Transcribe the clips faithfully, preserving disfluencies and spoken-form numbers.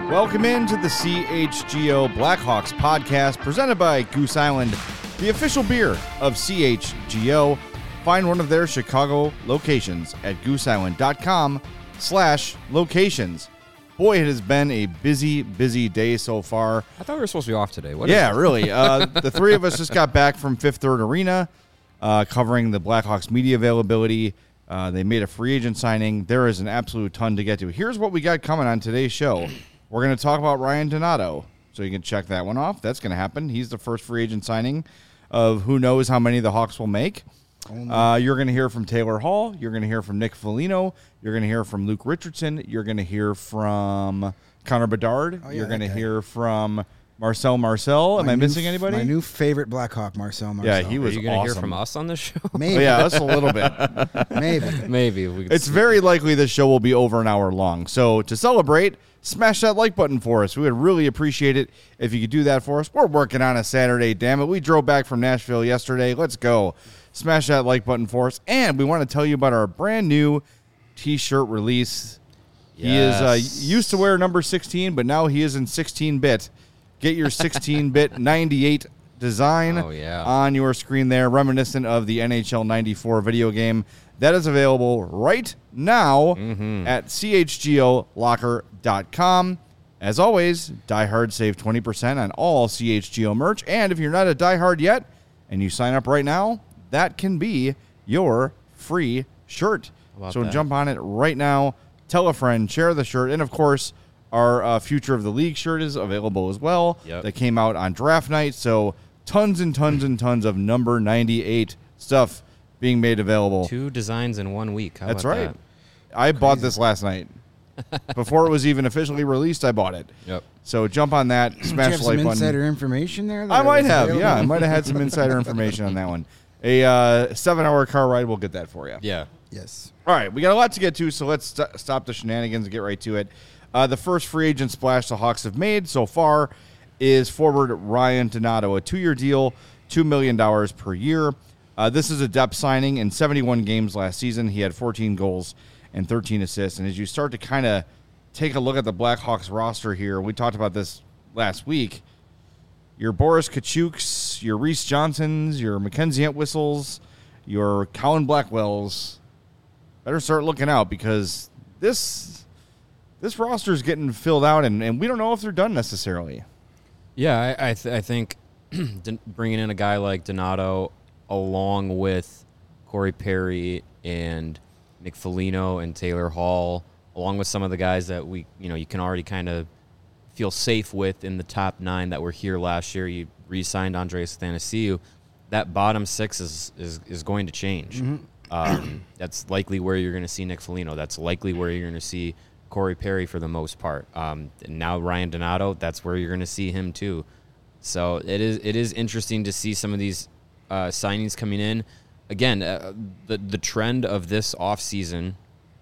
Welcome into the C H G O Blackhawks podcast presented by Goose Island, the official beer of C H G O. Find one of their Chicago locations at gooseisland.com slash locations. Boy, it has been a busy, busy day so far. I thought we were supposed to be off today. What yeah, is really. Uh, the three of us just got back from Fifth Third Arena, uh, covering the Blackhawks media availability. Uh, they made a free agent signing. There is an absolute ton to get to. Here's what we got coming on today's show. We're going to talk about Ryan Donato, so you can check that one off. That's going to happen. He's the first free agent signing of who knows how many the Hawks will make. Uh, you're going to hear from Taylor Hall. You're going to hear from Nick Foligno. You're going to hear from Luke Richardson. You're going to hear from Connor Bedard. Oh, yeah, you're going to okay. hear from Marcel Marcel. Am My I new missing f- anybody? My new favorite Blackhawk, Marcel Marcel. Yeah, he Are was you going to awesome. hear from us on this show? Maybe. Oh, yeah, that's a little bit. Maybe. Maybe. If we could It's very likely this show will be over an hour long. So to celebrate, smash that like button for us. We would really appreciate it if you could do that for us. We're working on a Saturday, damn it. We drove back from Nashville yesterday. Let's go. Smash that like button for us. And we want to tell you about our brand new T-shirt release. He is uh, Yes. used to wear number sixteen, but now he is in sixteen-bit. Get your sixteen-bit ninety-eight design Oh, yeah. on your screen there, reminiscent of the N H L ninety-four video game. That is available right now Mm-hmm. at c h g o locker dot com. As always, Die Hard save twenty percent on all C H G O merch. And if you're not a Die Hard yet and you sign up right now, that can be your free shirt. about So that? jump on it right now. Tell a friend, share the shirt. And, of course, our uh, Future of the League shirt is available as well. Yep. That came out on draft night. So tons and tons and tons of number ninety-eight stuff being made available. Two designs in one week. How That's about right. that? I bought this last night. Before it was even officially released, I bought it. Yep. So jump on that, Did you smash have the some like insider button. information there? that I might was have, available? yeah. I might have had some insider information on that one. A uh, seven-hour car ride, we'll get that for you. Yeah. Yes. All right, we got a lot to get to, so let's st- stop the shenanigans and get right to it. Uh, the first free agent splash the Hawks have made so far is forward Ryan Donato, a two-year deal, two million dollars per year. Uh, this is a depth signing. In seventy-one games last season, he had fourteen goals and thirteen assists. And as you start to kind of take a look at the Blackhawks roster here, we talked about this last week, your Boris Kachuks, your Reese Johnsons, your Mackenzie Entwistles, your Colin Blackwells, better start looking out because this this roster is getting filled out, and, and we don't know if they're done necessarily. Yeah, I I, th- I think don- bringing in a guy like Donato along with Corey Perry and Nick Foligno and Taylor Hall, along with some of the guys that we, you know, you can already kind of feel safe with in the top nine that were here last year. You re-signed Andreas Athanasiou. That bottom six is is, is going to change. Um, that's likely where you're going to see Nick Foligno. That's likely where you're going to see Corey Perry for the most part. Um, and now Ryan Donato, that's where you're going to see him too. So it is it is interesting to see some of these uh, signings coming in. Again, uh, the the trend of this offseason,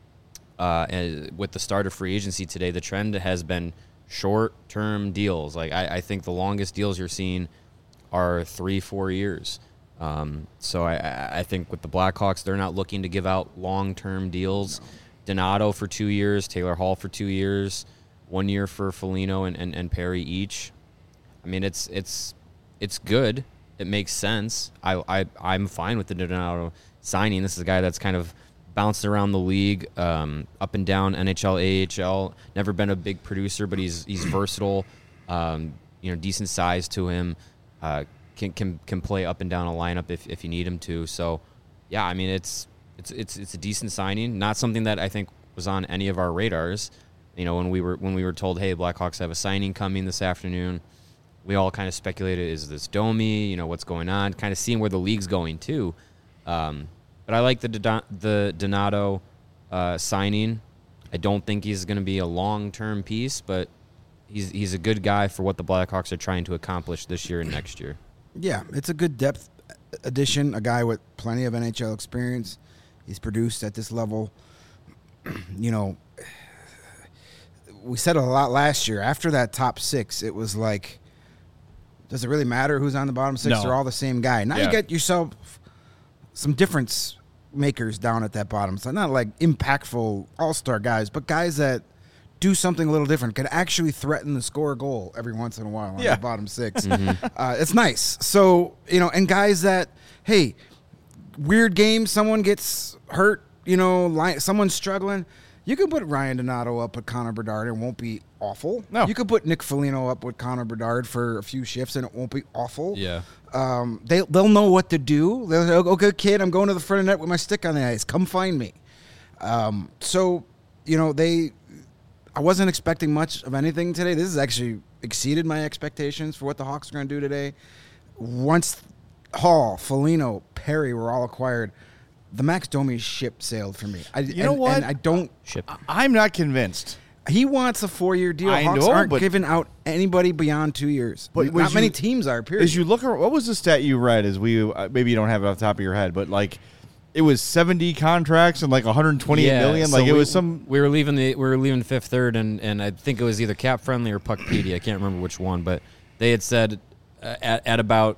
uh, and with the start of free agency today, the trend has been short-term deals. Like I, I think the longest deals you're seeing are three, four years. Um, so I- I, I think with the Blackhawks, they're not looking to give out long-term deals. No. Donato for two years, Taylor Hall for two years, one year for Foligno and, and, and Perry each. I mean, it's it's it's good. It makes sense. I, I, I'm fine with the Donato signing. This is a guy that's kind of bounced around the league, um, up and down, N H L, A H L. Never been a big producer, but he's he's versatile. Um, you know, decent size to him. Uh, can can can play up and down a lineup if, if you need him to. So, yeah, I mean, it's it's it's it's a decent signing. Not something that I think was on any of our radars. You know, when we were when we were told, hey, Blackhawks have a signing coming this afternoon, we all kind of speculated, is this Domi? You know, what's going on? Kind of seeing where the league's going too. Um, but I like the Don- the Donato uh, signing. I don't think he's going to be a long-term piece, but he's he's a good guy for what the Blackhawks are trying to accomplish this year and next year. Yeah, it's a good depth addition. A guy with plenty of N H L experience. He's produced at this level. You know, we said it a lot last year. After that top six, it was like, does it really matter who's on the bottom six? No. They're all the same guy. Now Yeah. you get yourself some difference makers down at that bottom. So not like impactful all-star guys, but guys that do something a little different, could actually threaten to score a goal every once in a while on Yeah. the bottom six. Uh, it's nice. So, you know, and guys that, hey, weird game, someone gets hurt, you know, li- someone's struggling. You can put Ryan Donato up with Connor Bedard and it won't be awful. No. You could put Nick Foligno up with Connor Bedard for a few shifts and it won't be awful. Yeah. Um, they, they'll know what to do. They'll say, okay, kid, I'm going to the front of the net with my stick on the ice. Come find me. Um, so, you know, they, I wasn't expecting much of anything today. This has actually exceeded my expectations for what the Hawks are going to do today. Once Hall, Foligno, Perry were all acquired, the Max Domi ship sailed for me. I, You know and- what? And I don't. Ship. I'm not convinced. He wants a four-year deal. I Hawks know, aren't but- giving out anybody beyond two years. But Not was many you- teams are. Period. As you look at what was the stat you read? As we uh, maybe you don't have it off the top of your head, but like it was seventy contracts and like one hundred twenty-eight Yeah, million. so Like it we- was some. We were leaving the we were leaving fifth third, and, and I think it was either Cap Friendly or Puckpedia. I can't remember which one, but they had said uh, at at about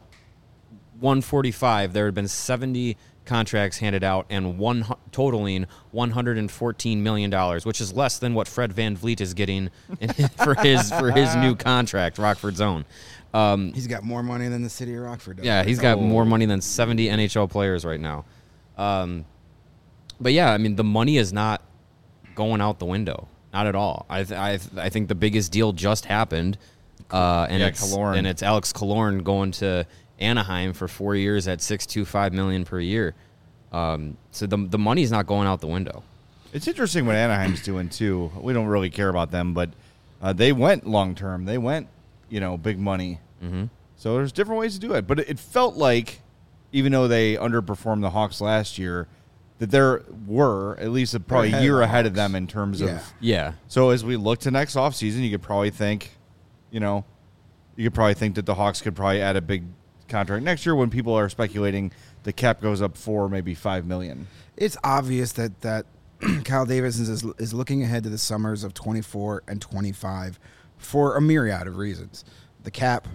one forty-five there had been seventy contracts handed out and one hu- totaling one hundred fourteen million dollars, which is less than what Fred Van Vliet is getting in, for his for his new contract, Rockford's own. Um, He's got more money than the city of Rockford does. yeah, he's got Oh. more money than seventy N H L players right now. Um, but yeah, I mean, the money is not going out the window, not at all. I th- I, th- I think the biggest deal just happened, uh, and Yeah, it's Killorn. and it's Alex Killorn going to Anaheim for four years at six two five million per year. Um, so the the money's not going out the window. It's interesting what Anaheim's doing too. We don't really care about them, but uh, they went long term. They went, you know, big money. Mm-hmm. So there's different ways to do it. But it, it felt like, even though they underperformed the Hawks last year, that there were at least a, probably a ahead of year the ahead of Hawks. them in terms Yeah. of. Yeah, So as we look to next offseason, you could probably think, you know, you could probably think that the Hawks could probably add a big contract next year when people are speculating the cap goes up four, maybe five million. It's obvious that that Kyle Davis is is looking ahead to the summers of twenty-four and twenty-five for a myriad of reasons. The cap,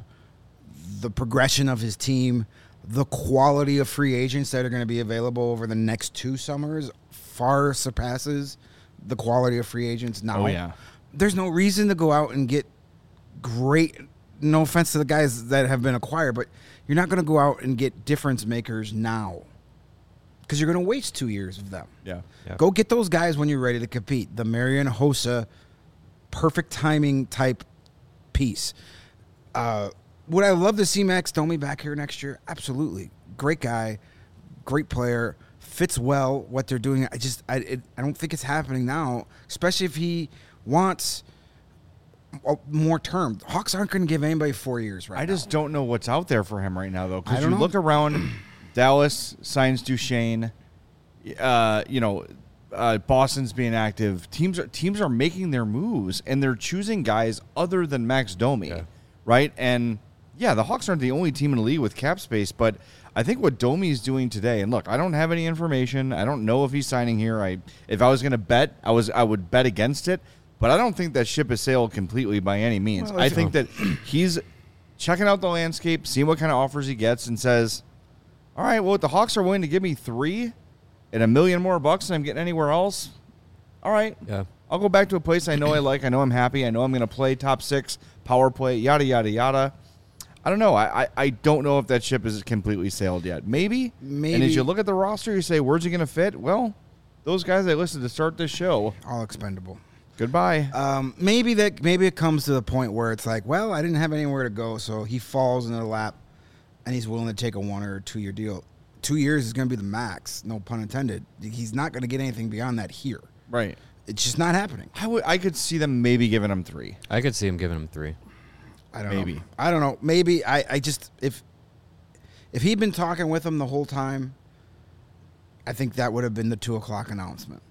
the progression of his team, the quality of free agents that are going to be available over the next two summers far surpasses the quality of free agents now. Oh, yeah. There's no reason to go out and get great, no offense to the guys that have been acquired, but you're not going to go out and get difference makers now because you're going to waste two years of them. Yeah. Yeah. Go get those guys when you're ready to compete. The Marian Hossa perfect timing type piece. Uh, would I love to see Max Domi back here next year? Absolutely. Great guy, great player, fits well what they're doing. I just I it, I don't think it's happening now, especially if he wants a- more term. Hawks aren't going to give anybody four years right I now. just don't know what's out there for him right now, though. I Because don't you know. look around, Dallas signs Duchesne. Uh, you know, uh, Boston's being active. Teams are teams are making their moves, and they're choosing guys other than Max Domi, Yeah. right? And yeah, the Hawks aren't the only team in the league with cap space, but I think what Domi is doing today. And look, I don't have any information. I don't know if he's signing here. I if I was going to bet, I was I would bet against it. But I don't think that ship has sailed completely by any means. Well, I if- think that he's checking out the landscape, seeing what kind of offers he gets, and says, all right, well, if the Hawks are willing to give me three and a million more bucks than I'm getting anywhere else, all right, yeah. I'll go back to a place I know I like. I know I'm happy. I know I'm going to play top six, power play, yada, yada, yada. I don't know. I, I, I don't know if that ship is completely sailed yet. Maybe. And Maybe. as you look at the roster, you say, where's he going to fit? Well, those guys I listed to start this show, All expendable. goodbye. Um, maybe that maybe it comes to the point where it's like, well, I didn't have anywhere to go, so he falls in the lap, and he's willing to take a one or two year deal. Two years is going to be the max, no pun intended. He's not going to get anything beyond that here. Right. It's just not happening. I would. I could see them maybe giving him three. I could see him giving him three. I don't Maybe. know. I don't know. Maybe I, I just if if he'd been talking with him the whole time, I think that would have been the two o'clock announcement.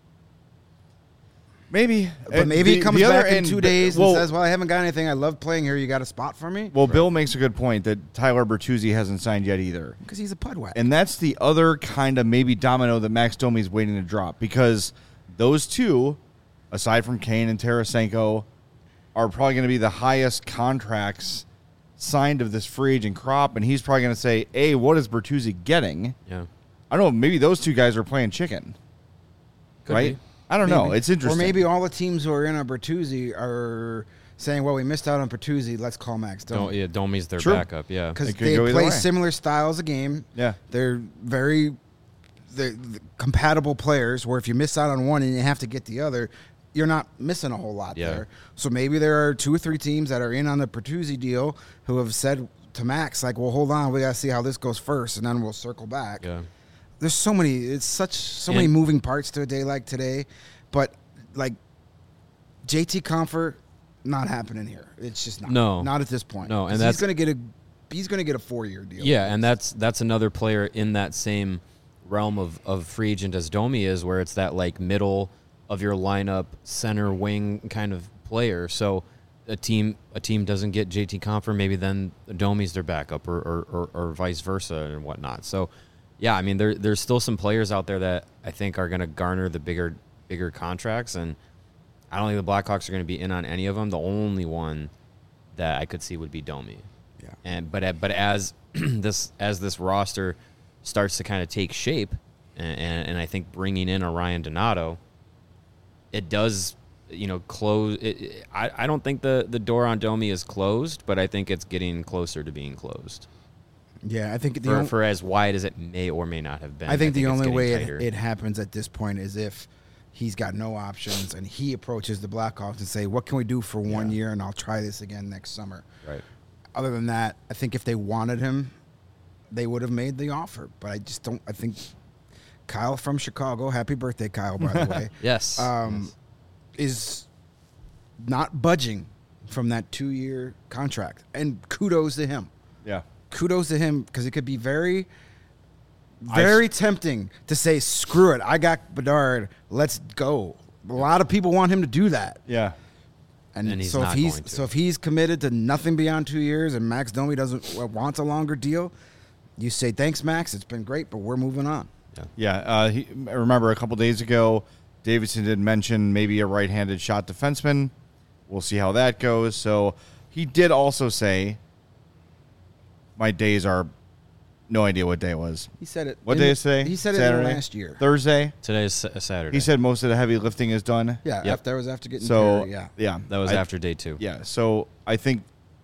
Maybe. But And maybe the- he comes the other back in end- two days well, and says, "Well, I haven't got anything. I love playing here. You got a spot for me?" Well, Bill makes a good point that Tyler Bertuzzi hasn't signed yet either. Because he's a pudwhack. And that's the other kind of maybe domino that Max Domi's waiting to drop, because those two, aside from Kane and Tarasenko, are probably going to be the highest contracts signed of this free agent crop. And he's probably going to say, A, what is Bertuzzi getting? Yeah. I don't know. Maybe those two guys are playing chicken. Could right? be. I don't know. Maybe. It's interesting. Or maybe all the teams who are in on Bertuzzi are saying, well, we missed out on Bertuzzi. Let's call Max Don't, Domi. yeah, Domi's their True. backup. Yeah. Because It could they go either play way. similar styles of game. Yeah. They're very they're compatible players where if you miss out on one and you have to get the other, you're not missing a whole lot Yeah. there. So maybe there are two or three teams that are in on the Bertuzzi deal who have said to Max, like, well, hold on, we got to see how this goes first, and then we'll circle back. Yeah. There's so many, it's such, so many And- moving parts to a day like today. But, like, J T Comfort, not happening here. It's just not. No. Not at this point. No, and 'Cause that's- he's going to get a he's going to get a four-year deal. Yeah, and that's that's another player in that same realm of, of free agent as Domi is, where it's that like middle of your lineup, center wing kind of player. So a team a team doesn't get J T Comfort, maybe then Domi's their backup, or or, or or vice versa and whatnot. So yeah, I mean there there's still some players out there that I think are going to garner the bigger bigger contracts, and I don't think the Blackhawks are going to be in on any of them. The only one that I could see would be Domi. Yeah. And but but as this as this roster starts to kind of take shape, and, and, and I think bringing in a Ryan Donato, it does, you know, close. It, it, I I don't think the the door on Domi is closed, but I think it's getting closer to being closed. Yeah, I think the For, on- for as wide as it may or may not have been. I think the it's only getting way it, tighter. it happens at this point is if he's got no options and he approaches the Blackhawks and say, what can we do for one Yeah. year, and I'll try this again next summer. Right. Other than that, I think if they wanted him, they would have made the offer. But I just don't. I think Kyle from Chicago, happy birthday, Kyle, by the way, Yes. um, is not budging from that two-year contract. And kudos to him. Yeah. Kudos to him, because it could be very, very tempting to say, screw it, I got Bedard, let's go. A lot of people want him to do that. Yeah. And, And he's so if not he's going to. so if he's committed to nothing beyond two years and Max Domi doesn't uh, wants a longer deal, you say, thanks, Max, it's been great, but we're moving on. yeah. Yeah. Uh, he, I remember a couple days ago, Davidson did mention maybe a right-handed shot defenseman. We'll see how that goes. So he did also say, my days are no idea what day it was. He said it. What in day the- is today? He said Saturday? it in last year. Thursday. Today's Sa- Saturday. He said most of the heavy lifting is done. Yeah, Yep. after, that was after getting So Perry, yeah. yeah, that was I- after day two. Yeah. So I think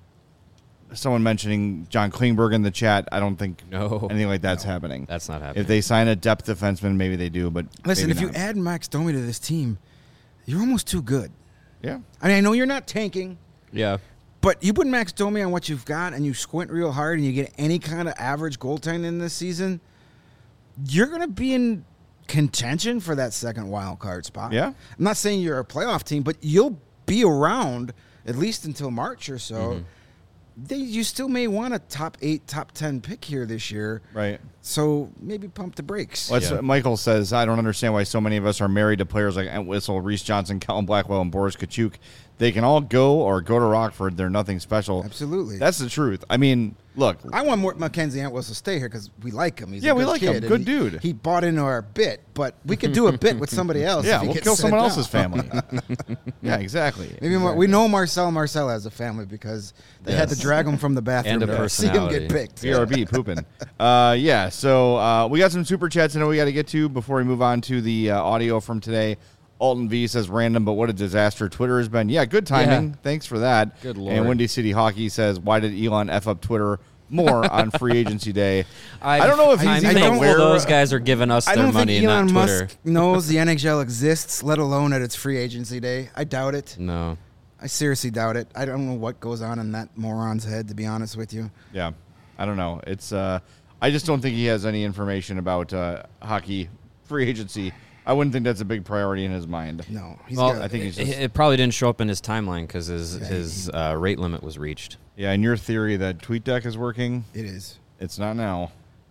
someone mentioning John Klingberg in the chat. I don't think No. anything like that's happening. That's not happening. If they sign a depth defenseman, maybe they do. But Listen, maybe if you not. add Max Domi to this team, you're almost too good. yeah, I mean, I know you're not tanking, Yeah. but you put Max Domi on what you've got and you squint real hard and you get any kind of average goaltending this season, you're going to be in contention for that second wild card spot. Yeah. I'm not saying you're a playoff team, but you'll be around at least until March or so. Mm-hmm. They, you still may want a top eight, top ten pick here this year. right. So maybe pump the brakes. Well, that's Yeah. what Michael says, I don't understand why so many of us are married to players like Entwistle, Reese Johnson, Kellen Blackwell, and Boris Kachuk. They can all go or go to Rockford. They're nothing special. Absolutely. That's the truth. I mean, look, I want more Mackenzie Entwistle to stay here because we like him. He's Yeah, a we good like him. kid, and Good he- dude. He bought into our bit, but we could do a bit with somebody else. yeah, if he we'll gets kill sent someone down. else's family. yeah, exactly. Maybe Mar- we know Marcel Marcel has a family because they had to Yes. drag him from the bathroom And a to see him get personality. picked. B R B pooping. Uh, yeah, so uh, we got some super chats I know we got to get to before we move on to the uh, audio from today. Alton V says random, but what a disaster Twitter has been. Yeah, good timing. Yeah. Thanks for that. Good Lord. And Windy City Hockey says, why did Elon F up Twitter more on free agency day? I, I don't know if he's I'm even thankful aware- those guys are giving us I their don't money, think Elon not Twitter. Musk knows the N H L exists, let alone at its free agency day. I doubt it. No. I seriously doubt it. I don't know what goes on in that moron's head, to be honest with you. Yeah, I don't know. It's uh, I just don't think he has any information about uh, hockey free agency. I wouldn't think that's a big priority in his mind. No, he's Well, got, I think he's it, just it probably didn't show up in his timeline because his Yeah, his uh, rate limit was reached. yeah. And your theory that TweetDeck is working, it is. it's not now.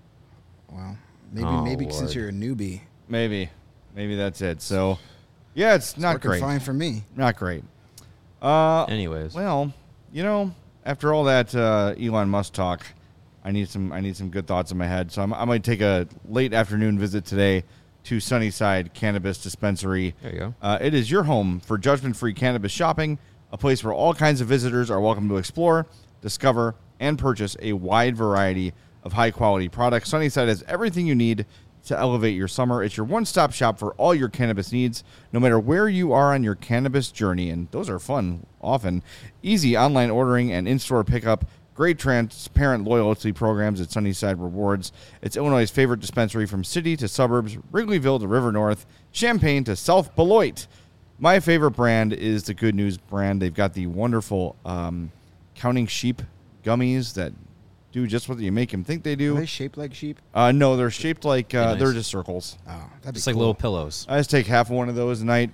Well, maybe Oh, maybe since Lord. you're a newbie, Maybe, maybe that's it. So, yeah, it's not working great. fine for me. Not great. Uh, Anyways, well, you know, after all that uh, Elon Musk talk, I need some I need some good thoughts in my head. So I'm, I might take a late afternoon visit today to Sunnyside Cannabis Dispensary. there you go. Uh, it is your home for judgment-free cannabis shopping, a place where all kinds of visitors are welcome to explore, discover, and purchase a wide variety of high-quality products. Sunnyside has everything you need to elevate your summer. It's your one-stop shop for all your cannabis needs, no matter where you are on your cannabis journey. And those are fun, often. Easy online ordering and in-store pickup. Great transparent loyalty programs at Sunnyside Rewards. It's Illinois' favorite dispensary from city to suburbs, Wrigleyville to River North, Champaign to South Beloit. My favorite brand is the Good News brand. They've got the wonderful um, Counting Sheep gummies that do just what you make them think they do. Are they shaped like sheep? Uh, no, they're shaped like, uh, Nice. they're just circles. Oh, that'd be Just like cool. little pillows. I just take half of one of those a night.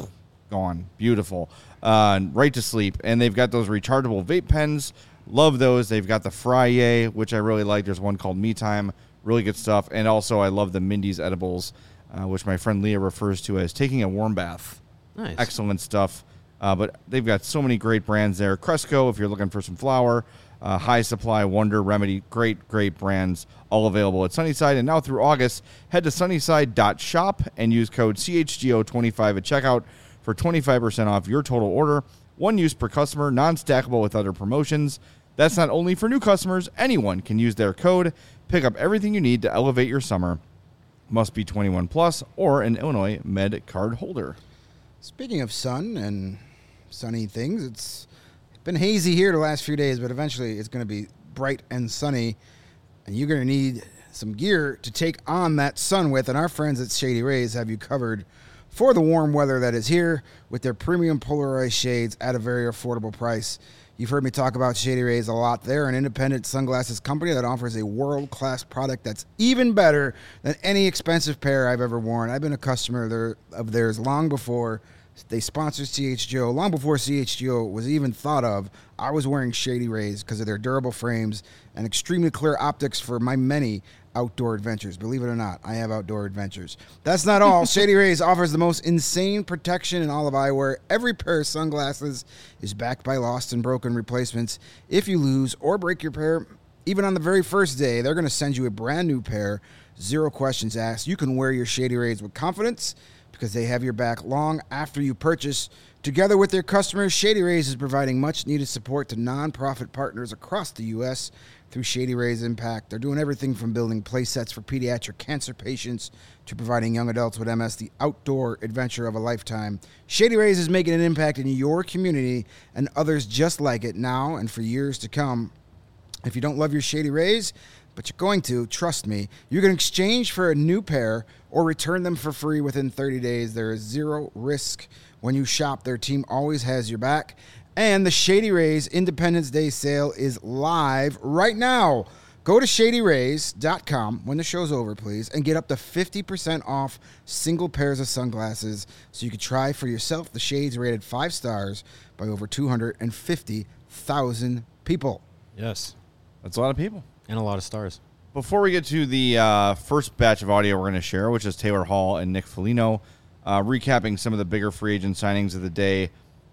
Gone. Beautiful. Uh, right to sleep. And they've got those rechargeable vape pens. Love those. They've got the Frye, which I really like. There's one called Me Time. Really good stuff. And also, I love the Mindy's edibles, uh, which my friend Leah refers to as taking a warm bath. Nice. Excellent stuff. Uh, but they've got so many great brands there. Cresco, if you're looking for some flour. Uh, High Supply, Wonder, Remedy. Great, great brands. All available at Sunnyside. And now through August, head to sunnyside dot shop and use code C H G O twenty-five at checkout for twenty-five percent off your total order. One use per customer, non-stackable with other promotions. That's not only for new customers. Anyone can use their code. Pick up everything you need to elevate your summer. Must be twenty-one plus or an Illinois Med card holder. Speaking of sun and sunny things, it's been hazy here the last few days, but eventually it's going to be bright and sunny, and you're going to need some gear to take on that sun with, and our friends at Shady Rays have you covered for the warm weather that is here with their premium polarized shades at a very affordable price. You've heard me talk about Shady Rays a lot. They're an independent sunglasses company that offers a world-class product that's even better than any expensive pair I've ever worn. I've been a customer there, of theirs long before they sponsored C H G O, long before C H G O was even thought of. I was wearing Shady Rays because of their durable frames and extremely clear optics for my many outdoor adventures. Believe it or not, I have outdoor adventures. That's not all. Shady Rays offers the most insane protection in all of eyewear. Every pair of sunglasses is backed by lost and broken replacements. If you lose or break your pair, even on the very first day, they're going to send you a brand new pair. Zero questions asked. You can wear your Shady Rays with confidence because they have your back long after you purchase. Together with their customers, Shady Rays is providing much-needed support to nonprofit partners across the U S through Shady Rays Impact. They're doing everything from building play sets for pediatric cancer patients to providing young adults with M S the outdoor adventure of a lifetime. Shady Rays is making an impact in your community and others just like it now and for years to come. If you don't love your Shady Rays, but you're going to, trust me, you can exchange for a new pair or return them for free within thirty days. There is zero risk when you shop. Their team always has your back. And the Shady Rays Independence Day sale is live right now. Go to shady rays dot com when the show's over, please, and get up to fifty percent off single pairs of sunglasses so you can try for yourself. The shades rated five stars by over two hundred fifty thousand people. Yes. That's a lot of people. And a lot of stars. Before we get to the uh, first batch of audio we're going to share, which is Taylor Hall and Nick Foligno, uh, recapping some of the bigger free agent signings of the day.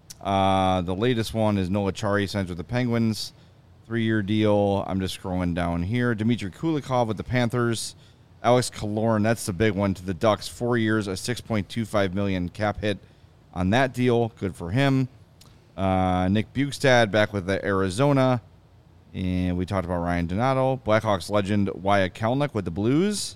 Uh, the latest one is Noah Chari signs with the Penguins. Three-year deal. I'm just scrolling down here. Dmitry Kulikov with the Panthers. Alex Killorn, that's the big one, to the Ducks. Four years, a six point two five million dollars cap hit on that deal. Good for him. Uh, Nick Bukestad back with the Arizona. And we talked about Ryan Donato. Blackhawks legend Wyatt Kalynuk with the Blues.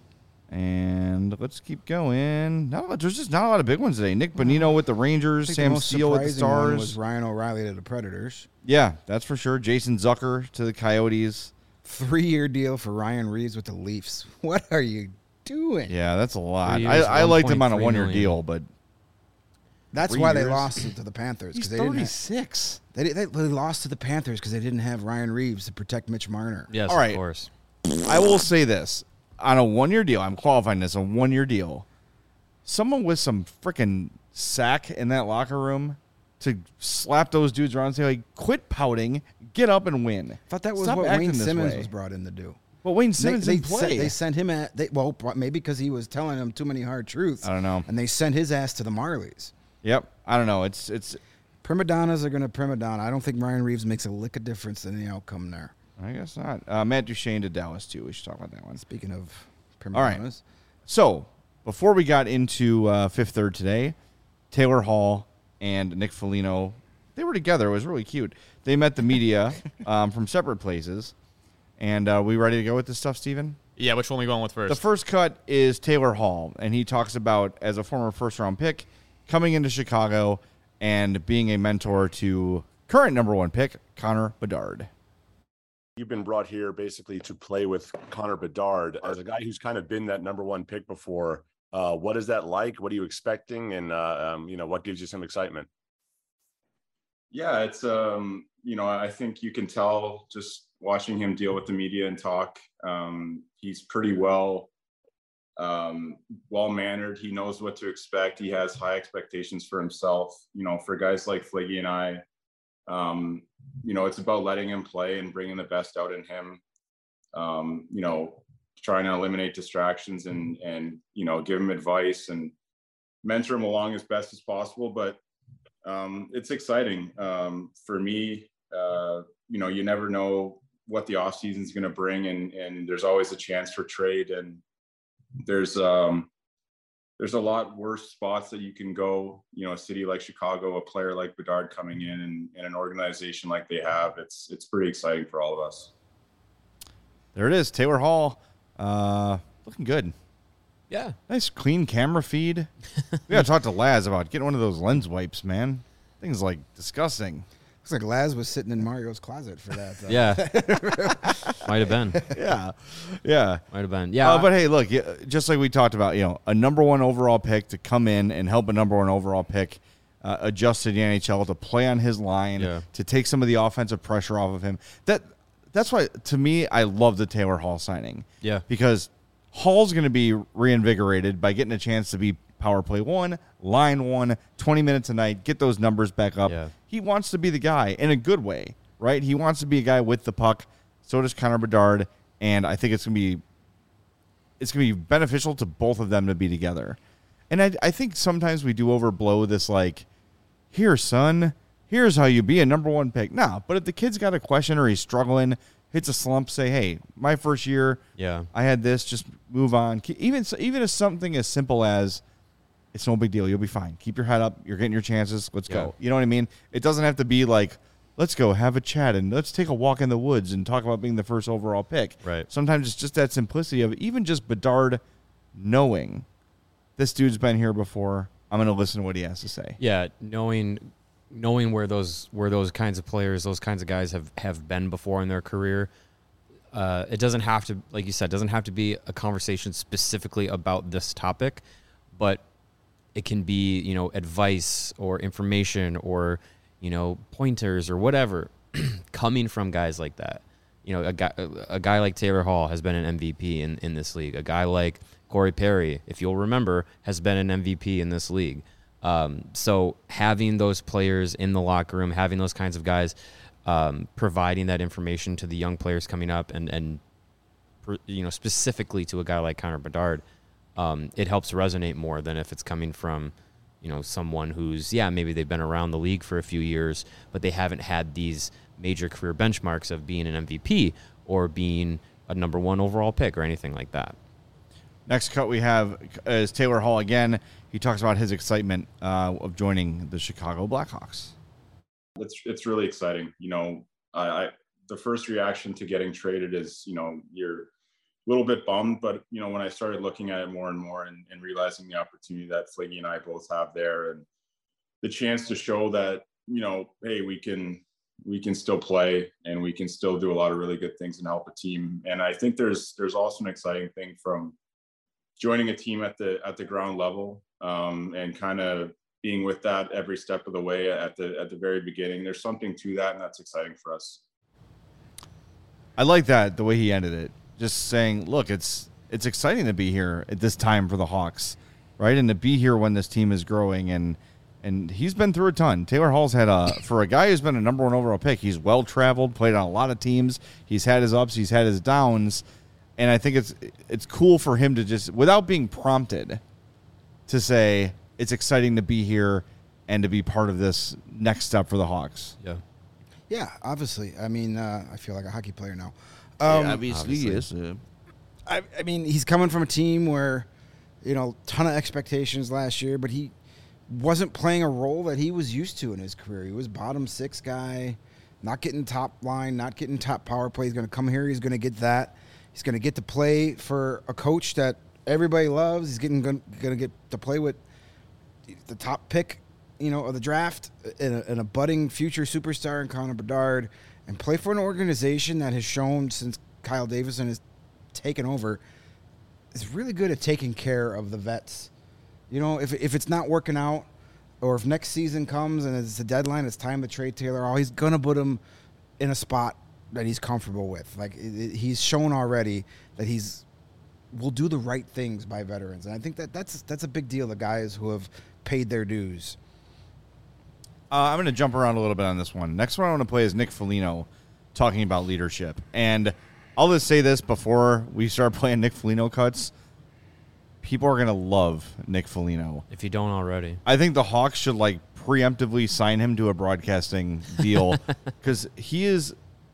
And let's keep going. Not a lot, there's just not a lot of big ones today. Nick Bonino with the Rangers. I think Sam the most Steele with the surprising one Stars. was Ryan O'Reilly to the Predators. Yeah, that's for sure. Jason Zucker to the Coyotes. Three-year deal for Ryan Reeves with the Leafs. What are you doing? Yeah, that's a lot. Three I, years, I liked him on a one point three one-year million. deal, but That's Three why they years? lost it to the Panthers. he's They didn't, have, thirty-six. they, they, they lost to the Panthers because they didn't have Ryan Reeves to protect Mitch Marner. Yes, All right. of course. I will say this. On a one-year deal, I'm qualifying this, a one-year deal, someone with some freaking sack in that locker room to slap those dudes around and say, like, quit pouting, get up and win. I thought that was Stop what acting Wayne this Simmons way. was brought in to do. Well, Wayne They, Simmons they, didn't play. sent, they sent him at, they, well, maybe because he was telling them too many hard truths. I don't know. And they sent his ass to the Marlies. Yep. I don't know. It's it's. Prima donnas are going to prima donna. I don't think Ryan Reeves makes a lick of difference in the outcome there. I guess not. Uh, Matt Duchene to Dallas, too. We should talk about that one. Speaking of prima All right. donnas. So, before we got into uh, Fifth Third today, Taylor Hall and Nick Foligno, they were together. It was really cute. They met the media um, from separate places. And uh, we ready to go with this stuff, Steven? Yeah, which one are we going with first? The first cut is Taylor Hall, and he talks about, as a former first-round pick, coming into Chicago and being a mentor to current number one pick, Connor Bedard. You've been brought here basically to play with Connor Bedard. As a guy who's kind of been that number one pick before, uh, what is that like? What are you expecting? And, uh, um, you know, what gives you some excitement? Yeah, it's, um, you know, I think you can tell just watching him deal with the media and talk. Um, he's pretty well, um, well-mannered. He knows what to expect. He has high expectations for himself. You know, for guys like Fliggy and I, um, you know, it's about letting him play and bringing the best out in him. Um, you know, trying to eliminate distractions and, and, you know, give him advice and mentor him along as best as possible. But um, it's exciting um, for me. Uh, you know, you never know what the off season is going to bring, and and there's always a chance for trade, and there's um there's a lot worse spots that you can go. You know, a city like Chicago, a player like Bedard coming in, and, and an organization like they have, it's it's pretty exciting for all of us. There it is, Taylor Hall, uh, looking good. Yeah, nice clean camera feed. We gotta talk to Laz about getting one of those lens wipes, man. Things like disgusting. Looks like Laz was sitting in Mario's closet for that. Though. Yeah, might have been. Yeah, yeah, might have been. Yeah, uh, but hey, look, just like we talked about, you know, a number one overall pick to come in and help a number one overall pick uh, adjust to the N H L, to play on his line, yeah. to take some of the offensive pressure off of him. That that's why, to me, I love the Taylor Hall signing. Yeah, because Hall's going to be reinvigorated by getting a chance to be power play one, line one, twenty minutes a night, get those numbers back up. Yeah. He wants to be the guy in a good way, right? He wants to be a guy with the puck. So does Connor Bedard, and I think it's going to be it's going to be beneficial to both of them to be together. And I, I think sometimes we do overblow this, like, here, son, here's how you be a number one pick. Nah, but if the kid's got a question or he's struggling, hits a slump, say, hey, my first year, yeah, I had this, just move on. Even even if something as simple as, it's no big deal, you'll be fine. Keep your head up. You're getting your chances. Let's yeah. go. You know what I mean? It doesn't have to be like, let's go have a chat and let's take a walk in the woods and talk about being the first overall pick. Right. Sometimes it's just that simplicity of even just Bedard knowing this dude's been here before. I'm going to listen to what he has to say. Yeah, knowing knowing where those where those kinds of players, those kinds of guys have, have been before in their career. Uh, it doesn't have to, like you said, doesn't have to be a conversation specifically about this topic, but it can be, you know, advice or information or, you know, pointers or whatever coming from guys like that. You know, a guy, a guy like Taylor Hall has been an M V P in, in this league. A guy like Corey Perry, if you'll remember, has been an M V P in this league. Um, so having those players in the locker room, having those kinds of guys, um, providing that information to the young players coming up, and and you know, specifically to a guy like Connor Bedard, um, it helps resonate more than if it's coming from, you know, someone who's, yeah, maybe they've been around the league for a few years, but they haven't had these major career benchmarks of being an M V P or being a number one overall pick or anything like that. Next cut we have is Taylor Hall again. He talks about his excitement uh, of joining the Chicago Blackhawks. It's it's really exciting. You know, I, I the first reaction to getting traded is, you know, you're a little bit bummed, but, you know, when I started looking at it more and more and, and realizing the opportunity that Fliggy and I both have there, and the chance to show that, you know, hey, we can we can still play and we can still do a lot of really good things and help a team. And I think there's there's also an exciting thing from joining a team at the at the ground level, um, and kind of being with that every step of the way at the at the very beginning. There's something to that, and that's exciting for us. I like that, the way he ended it. Just saying, look, it's it's exciting to be here at this time for the Hawks, right? And to be here when this team is growing, and and he's been through a ton. Taylor Hall's had a, for a guy who's been a number one overall pick, he's well traveled, played on a lot of teams. He's had his ups, he's had his downs. And I think it's it's cool for him to just, without being prompted, to say it's exciting to be here and to be part of this next step for the Hawks. Yeah. Yeah, obviously. I mean, uh, I feel like a hockey player now. Um, yeah, obviously, yes. Uh, I, I mean, he's coming from a team where, you know, ton of expectations last year, but he wasn't playing a role that he was used to in his career. He was bottom six guy, not getting top line, not getting top power play. He's going to come here. He's going to get that. He's going to get to play for a coach that everybody loves. He's getting going to get to play with the top pick, you know, of the draft, and a, and a budding future superstar in Connor Bedard, and play for an organization that has shown since Kyle Davidson has taken over is really good at taking care of the vets. You know, if if it's not working out, or if next season comes and it's a deadline, it's time to trade Taylor Hall, he's going to put him in a spot that he's comfortable with. Like, it, it, he's shown already that he's will do the right things by veterans. And I think that that's, that's a big deal, the guys who have paid their dues. Uh, I'm going to jump around a little bit on this one. Next one I want to play is Nick Foligno talking about leadership. And I'll just say this before we start playing Nick Foligno cuts. People are going to love Nick Foligno. If you don't already. I think the Hawks should, like, preemptively sign him to a broadcasting deal because he is,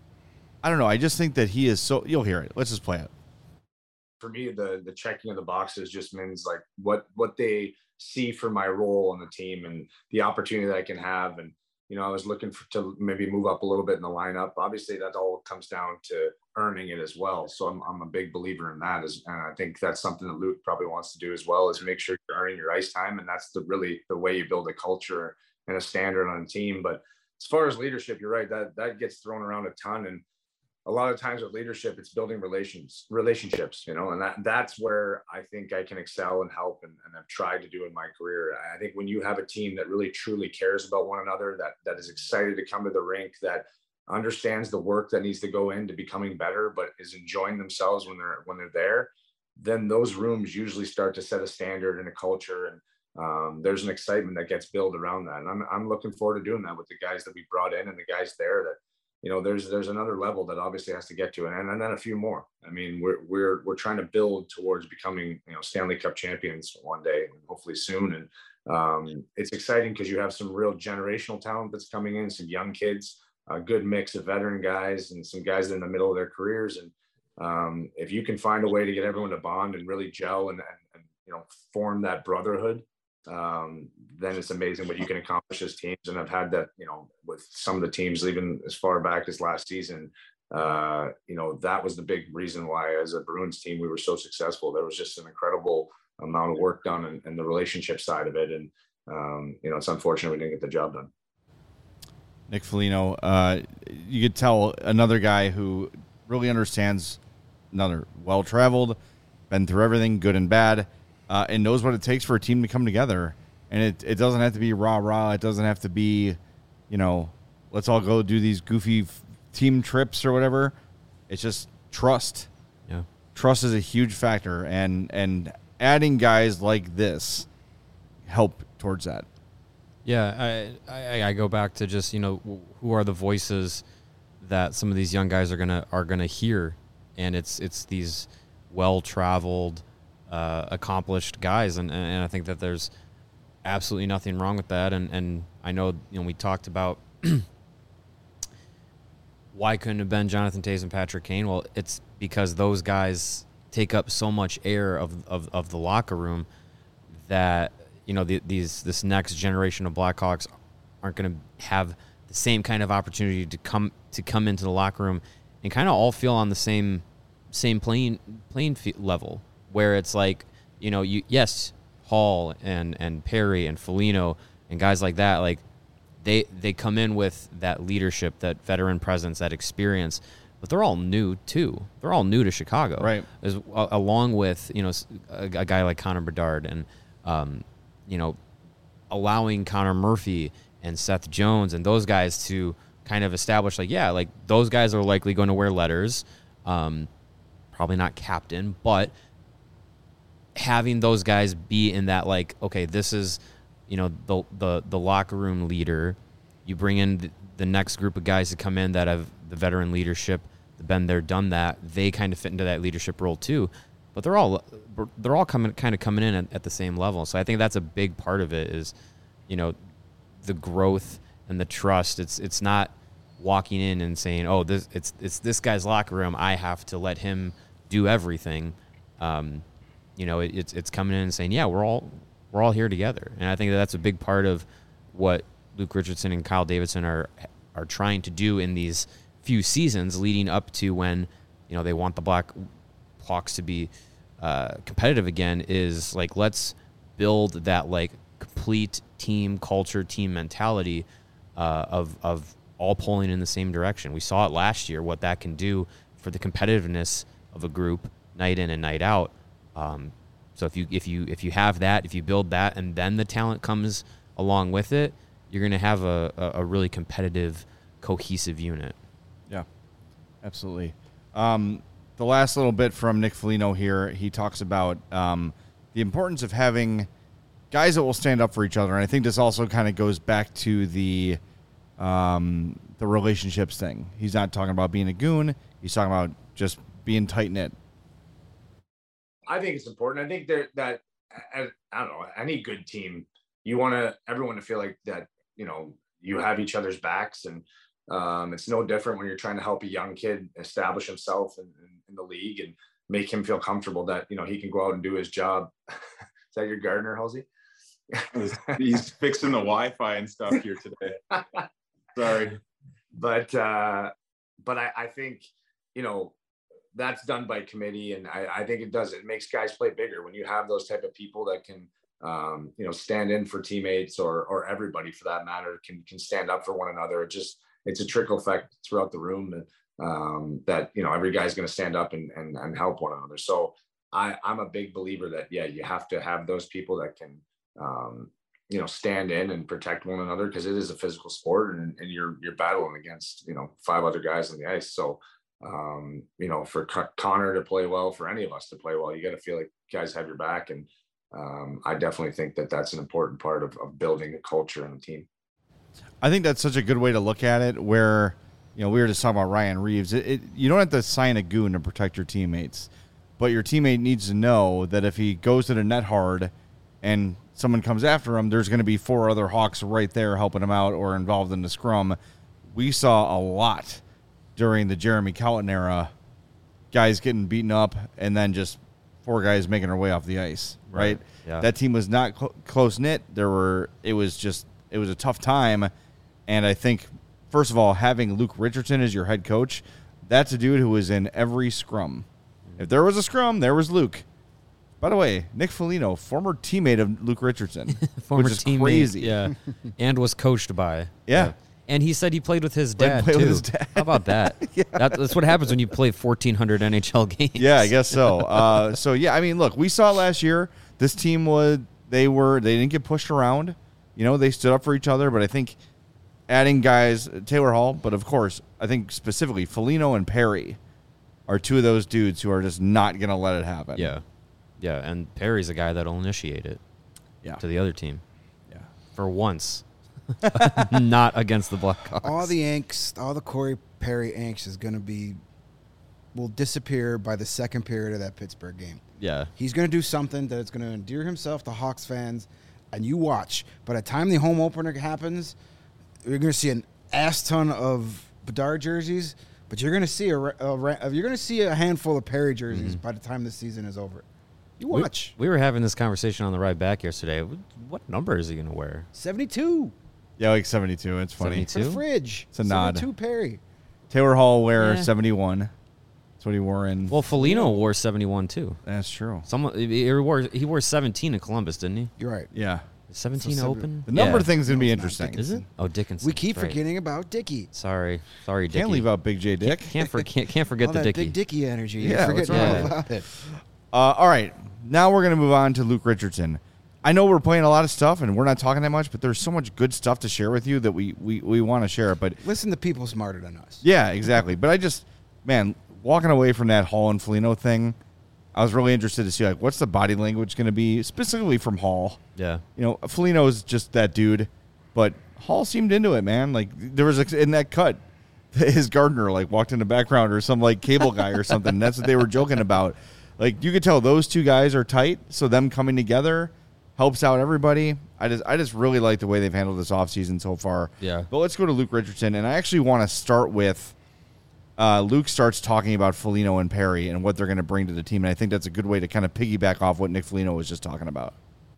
I don't know, I just think that he is so, you'll hear it. Let's just play it. For me, the the checking of the boxes just means, like, what what they see for my role on the team and the opportunity that I can have. And, you know, I was looking for, to maybe move up a little bit in the lineup. Obviously, that all comes down to earning it as well. So I'm I'm a big believer in that. As, and I think that's something that Luke probably wants to do as well, is make sure you're earning your ice time. And that's the really the way you build a culture and a standard on a team. But as far as leadership, you're right, that that gets thrown around a ton. And a lot of times with leadership, it's building relations, relationships, you know, and that that's where I think I can excel and help, and, and I've tried to do in my career. I think when you have a team that really truly cares about one another, that that is excited to come to the rink, that understands the work that needs to go into becoming better, but is enjoying themselves when they're when they're there, then those rooms usually start to set a standard and a culture, and um, there's an excitement that gets built around that. And I'm I'm looking forward to doing that with the guys that we brought in and the guys there. That, you know, there's there's another level that obviously has to get to, and, and then a few more. I mean, we're we're we're trying to build towards becoming, you know, Stanley Cup champions one day, hopefully soon. And um, it's exciting because you have some real generational talent that's coming in, some young kids, a good mix of veteran guys, and some guys in the middle of their careers. And um, if you can find a way to get everyone to bond and really gel and, and, and you know, form that brotherhood, um, then it's amazing what you can accomplish as teams. And I've had that, you know, with some of the teams, even as far back as last season, uh, you know, that was the big reason why as a Bruins team, we were so successful. There was just an incredible amount of work done and, and the relationship side of it. And, um, you know, it's unfortunate we didn't get the job done. Nick Foligno, uh, you could tell another guy who really understands, another well-traveled, been through everything, good and bad, uh, and knows what it takes for a team to come together. And it, it doesn't have to be rah-rah. It doesn't have to be, you know, let's all go do these goofy f- team trips or whatever. It's just trust. Yeah. Trust is a huge factor, and, and adding guys like this help towards that. Yeah, I, I I go back to just, you know, who are the voices that some of these young guys are gonna are gonna hear, and it's it's these well-traveled, uh, accomplished guys, and, and I think that there's absolutely nothing wrong with that. And, and I know, you know, we talked about why couldn't it have been Jonathan Toews and Patrick Kane? Well, it's because those guys take up so much air of of, of the locker room that, you know, the, these this next generation of Blackhawks aren't going to have the same kind of opportunity to come to come into the locker room and kind of all feel on the same same playing playing level, where it's like, you know, you yes, Hall and and Perry and Foligno and guys like that, like they they come in with that leadership, that veteran presence, that experience, but they're all new too. They're all new to Chicago, right? As, uh, along with, you know, a, a guy like Connor Bedard and um, you know, allowing Connor Murphy and Seth Jones and those guys to kind of establish, like, yeah, like those guys are likely going to wear letters, um, probably not captain, but having those guys be in that, like, okay, this is, you know, the the, the locker room leader. You bring in the, the next group of guys to come in that have the veteran leadership, been there, done that. They kind of fit into that leadership role too. But they're all they're all coming kind of coming in at, at the same level. So I think that's a big part of it is, you know, the growth and the trust. It's it's not walking in and saying, oh, this it's it's this guy's locker room, I have to let him do everything. Um, you know, it, it's it's coming in and saying, yeah, we're all we're all here together. And I think that that's a big part of what Luke Richardson and Kyle Davidson are are trying to do in these few seasons leading up to when, you know, they want the Black Hawks to be uh, competitive again is like, let's build that like complete team culture, team mentality uh, of of all pulling in the same direction. We saw it last year, what that can do for the competitiveness of a group night in and night out. Um, so if you if you if you have that, if you build that, and then the talent comes along with it, you're going to have a, a, a really competitive, cohesive unit. Yeah, absolutely. Um, the last little bit from Nick Foligno here, he talks about um, the importance of having guys that will stand up for each other. And I think this also kind of goes back to the um, the relationships thing. He's not talking about being a goon. He's talking about just being tight-knit. I think it's important. I think that, that I don't know, any good team, you want to everyone to feel like that, you know, you have each other's backs. And um, it's no different when you're trying to help a young kid establish himself in, in, in the league and make him feel comfortable that, you know, he can go out and do his job. Is that your gardener, Halsey? He's fixing the Wi-Fi and stuff here today. Sorry. But, uh, but I, I think, you know, that's done by committee. And I, I think it does, it makes guys play bigger when you have those type of people that can, um, you know, stand in for teammates or, or everybody for that matter can, can stand up for one another. It just, it's a trickle effect throughout the room and, um, that, you know, every guy's going to stand up and, and, and help one another. So I, I'm a big believer that, yeah, you have to have those people that can, um, you know, stand in and protect one another, because it is a physical sport and, and you're, you're battling against, you know, five other guys on the ice. So, um, you know, for Co- Connor to play well, for any of us to play well, you got to feel like guys have your back. And um, I definitely think that that's an important part of, of building a culture and a team. I think that's such a good way to look at it, where, you know, we were just talking about Ryan Reeves. It, it, you don't have to sign a goon to protect your teammates, but your teammate needs to know that if he goes to the net hard and someone comes after him, there's going to be four other Hawks right there helping him out or involved in the scrum. We saw a lot during the Jeremy Colliton era, guys getting beaten up and then just four guys making their way off the ice, right? Right. Yeah. That team was not cl- close-knit. There were, it was just, it was a tough time. And I think, first of all, having Luke Richardson as your head coach, that's a dude who was in every scrum. If there was a scrum, there was Luke. By the way, Nick Foligno, former teammate of Luke Richardson, Former which is teammate, crazy. yeah, and was coached by. Yeah. And he said he played with his Played- dad, played too. with his dad. How about that? Yeah. that? That's what happens when you play fourteen hundred N H L games. Yeah, I guess so. Uh, so yeah, I mean, look, we saw last year. This team was they were they didn't get pushed around. You know, they stood up for each other. But I think adding guys, Taylor Hall, but of course, I think specifically Foligno and Perry are two of those dudes who are just not going to let it happen. Yeah. Yeah, and Perry's a guy that'll initiate it Yeah. to the other team. Yeah. For once. Not against the Blackhawks. All the angst, all the Corey Perry angst is going to be, will disappear by the second period of that Pittsburgh game. Yeah. He's going to do something that is going to endear himself to Hawks fans, and you watch. By the time the home opener happens, you're going to see an ass ton of Bedard jerseys, but you're going to see a, a you're going to see a handful of Perry jerseys mm-hmm. by the time the season is over. You watch. We, we were having this conversation on the ride back yesterday. What number is he going to wear? seventy-two. Yeah, like seventy-two. It's funny. seventy-two? For the fridge. It's a nod. seventy-two Perry. Taylor Hall wear Yeah. seventy-one. That's what he wore in. Well, Foligno wore seventy-one too. That's true. Someone he wore he wore seventeen in Columbus, didn't he? You're right. Yeah. Is seventeen So seven- open? The number Yeah. thing's going to be No, it's not. interesting. Is it? Oh, Dickinson. We keep That's right. forgetting about Dickey. Sorry, sorry, Dickie. Can't leave out Big J Dick. Can't can't, for, can't, can't forget All the that Dickie. big Dickey energy. You Yeah, forget what's wrong all with about it. Uh, all right. Now we're going to move on to Luke Richardson. I know we're playing a lot of stuff and we're not talking that much, but there's so much good stuff to share with you that we, we, we want to share it. But Listen to people smarter than us. yeah, exactly. But I just, man, walking away from that Hall and Foligno thing, I was really interested to see, like, what's the body language going to be, specifically from Hall. Yeah. You know, Foligno's just that dude, but Hall seemed into it, man. Like, there was, a, in that cut, his gardener, like, walked in the background or some, like, cable guy or something. That's what they were joking about. Like, you could tell those two guys are tight, so them coming together helps out everybody. I just I just really like the way they've handled this offseason so far. Yeah. But let's go to Luke Richardson, and I actually want to start with uh, Luke starts talking about Foligno and Perry and what they're going to bring to the team, and I think that's a good way to kind of piggyback off what Nick Foligno was just talking about.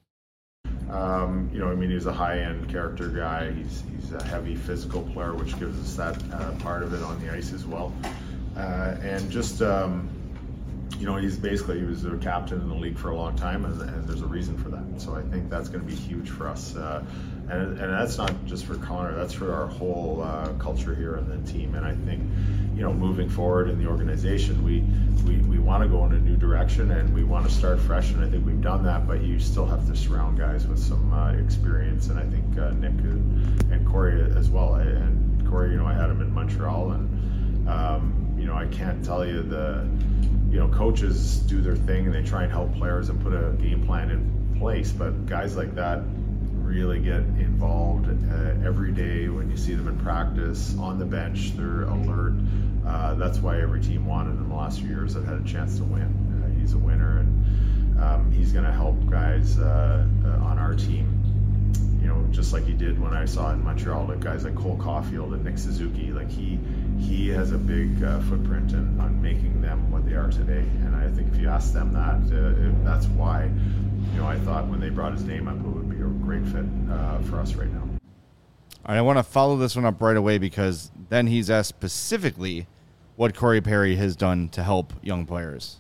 Um, you know, I mean, he's a high-end character guy. He's he's a heavy physical player, which gives us that uh, part of it on the ice as well. Uh, and just, um, you know, he's basically, he was a captain in the league for a long time, and, and there's a reason for that. So I think that's going to be huge for us. Uh, and, and that's not just for Connor, that's for our whole uh, culture here in the team. And I think, you know, moving forward in the organization, we, we, we want to go in a new direction, and we want to start fresh, and I think we've done that, but you still have to surround guys with some uh, experience, and I think uh, Nick and, and Corey as well. And Corey, you know, I had him in Montreal, and, um, you know, I can't tell you the, you know, coaches do their thing and they try and help players and put a game plan in place, but guys like that really get involved uh, every day. When you see them in practice, on the bench, they're alert. Uh, that's why every team wanted in the last few years that had a chance to win. Uh, he's a winner, and um, he's going to help guys uh, uh, on our team, you know, just like he did when I saw in Montreal, like guys like Cole Caulfield and Nick Suzuki. Like he he has a big uh, footprint in, on making them what they are today. And I think if you ask them that, uh, it, that's why, you know, I thought when they brought his name up, it would be a great fit uh, for us right now. All right, I want to follow this one up right away, because then he's asked specifically what Corey Perry has done to help young players.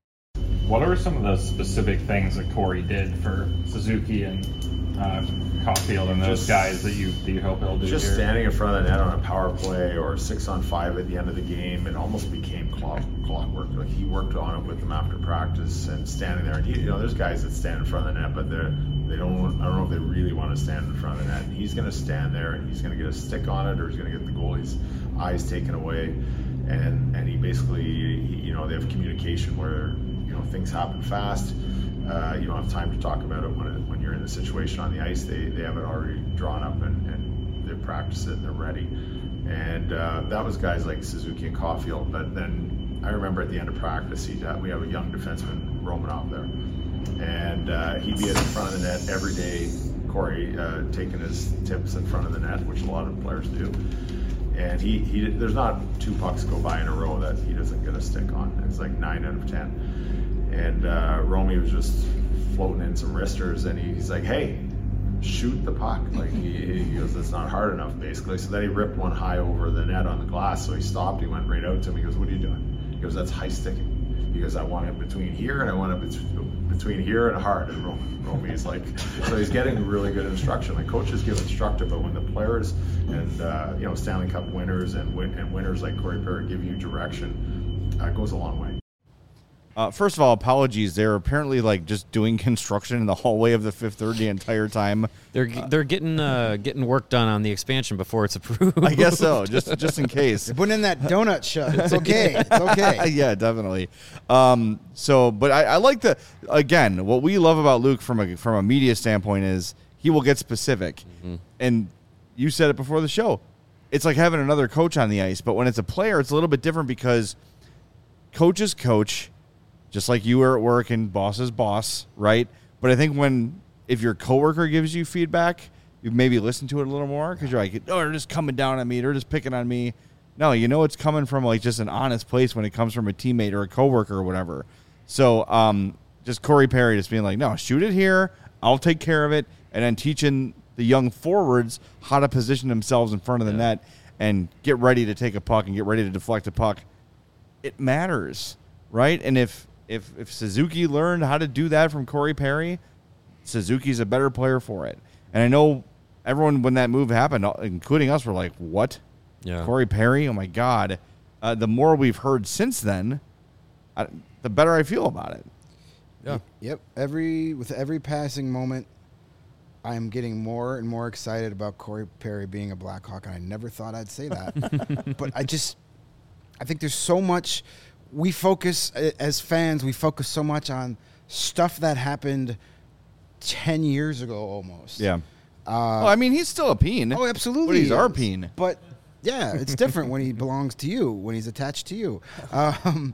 What are some of the specific things that Corey did for Suzuki and uh, Caulfield and those Just- guys that you that you hope he'll do Just here? standing in front of the net on a power play or six on five at the end of the game, it almost became clock, clockwork. Like he worked on it with them after practice and standing there. And you, you know, there's guys that stand in front of the net, but they're they don't. I don't know if they really want to stand in front of the net. And he's going to stand there and he's going to get a stick on it, or he's going to get the goalie's eyes taken away. And and he basically, he, you know, they have communication where, you know, things happen fast. Uh, you don't have time to talk about it when it, when you're in the situation on the ice. They they have it already drawn up, and, and they practice it and they're ready. And uh, that was guys like Suzuki and Caulfield. But then I remember at the end of practice, he uh, we have a young defenseman, Romanov, there, and uh, he'd be in front of the net every day. Corey uh, taking his tips in front of the net, which a lot of players do. And he, he there's not two pucks go by in a row that he doesn't get a stick on. It's like nine out of ten. And uh, Romy was just floating in some wristers, and he, he's like, "Hey, shoot the puck!" Like he, he goes, "It's not hard enough," basically. So then he ripped one high over the net on the glass. So he stopped. He went right out to him. He goes, "What are you doing?" He goes, "That's high sticking." He goes, "I want it between here and I want it bet- between here and hard." And Romy, Romy's like, so he's getting really good instruction. Like coaches give instruction, but when the players and uh, you know, Stanley Cup winners and win- and winners like Corey Perry give you direction, uh, it goes a long way. Uh, first of all, apologies. They're apparently like just doing construction in the hallway of the Fifth Third the entire time. They're they're getting uh, getting work done on the expansion before it's approved. I guess so, just just in case. They're putting in that donut shut. It's okay. It's okay. Yeah, definitely. Um, so, but I, I like the again. What we love about Luke from a from a media standpoint is he will get specific, mm-hmm. and you said it before the show. It's like having another coach on the ice, but when it's a player, it's a little bit different because coaches coach. Just like you were at work and boss is boss, right? But I think when, if your coworker gives you feedback, you maybe listen to it a little more because you're like, oh, they're just coming down on me. They're just picking on me. No, you know it's coming from like just an honest place when it comes from a teammate or a coworker or whatever. So um, just Corey Perry just being like, no, shoot it here. I'll take care of it. And then teaching the young forwards how to position themselves in front of the yeah. net and get ready to take a puck and get ready to deflect a puck. It matters, right? And if If if Suzuki learned how to do that from Corey Perry, Suzuki's a better player for it. And I know everyone, when that move happened, including us, were like, what? Yeah. Corey Perry? Oh, my God. Uh, the more we've heard since then, I, the better I feel about it. Yeah. Yep. Every With every passing moment, I am getting more and more excited about Corey Perry being a Blackhawk, and I never thought I'd say that. But I just, I think there's so much... We focus, as fans, we focus so much on stuff that happened ten years ago almost. Yeah. Uh, well, I mean, he's still a Peen. Oh, absolutely. But he's he our is. Peen. But, yeah, it's different when he belongs to you, when he's attached to you. Um,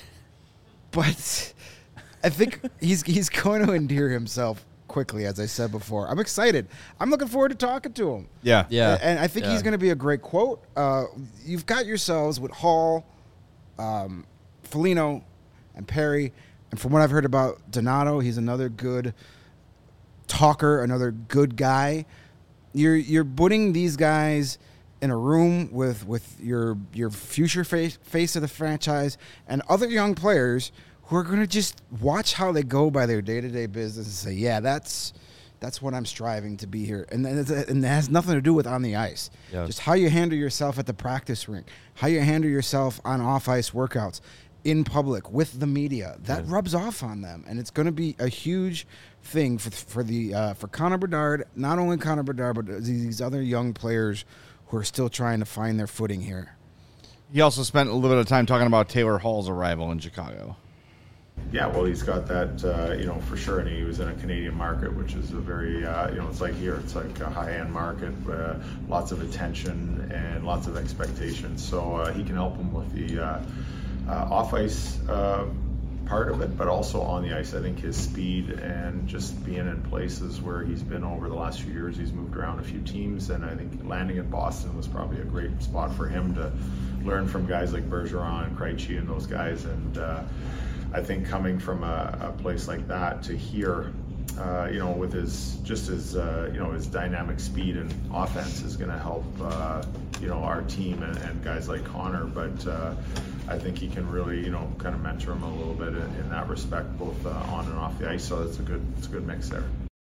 but I think he's he's going to endear himself quickly, as I said before. I'm excited. I'm looking forward to talking to him. Yeah. Yeah. And I think yeah. he's going to be a great quote. Uh, you've got yourselves with Hall, um, Foligno, and Perry, and from what I've heard about Donato, he's another good talker, another good guy. You're you're putting these guys in a room with with your your future face face of the franchise and other young players who are going to just watch how they go by their day-to-day business and say, yeah, that's that's what I'm striving to be here. And, and it has nothing to do with on the ice. Yeah. Just how you handle yourself at the practice rink, how you handle yourself on off-ice workouts, in public, with the media. That yeah. rubs off on them. And it's going to be a huge thing for for the uh, for Connor Bedard, not only Connor Bedard, but these other young players who are still trying to find their footing here. He also spent a little bit of time talking about Taylor Hall's arrival in Chicago. Yeah, well, he's got that, uh, you know, for sure. And he was in a Canadian market, which is a very, uh, you know, it's like here. It's like a high-end market, uh, lots of attention and lots of expectations. So uh, he can help him with the uh, uh, off-ice uh, part of it, but also on the ice. I think his speed and just being in places where he's been over the last few years, he's moved around a few teams, and I think landing in Boston was probably a great spot for him to learn from guys like Bergeron and Krejci and those guys. And uh, I think coming from a, a place like that to here, uh, you know, with his just his uh, you know his dynamic speed and offense is going to help uh, you know our team and, and guys like Connor. But uh, I think he can really you know kind of mentor him a little bit in, in that respect, both uh, on and off the ice. So it's a good it's a good mix there.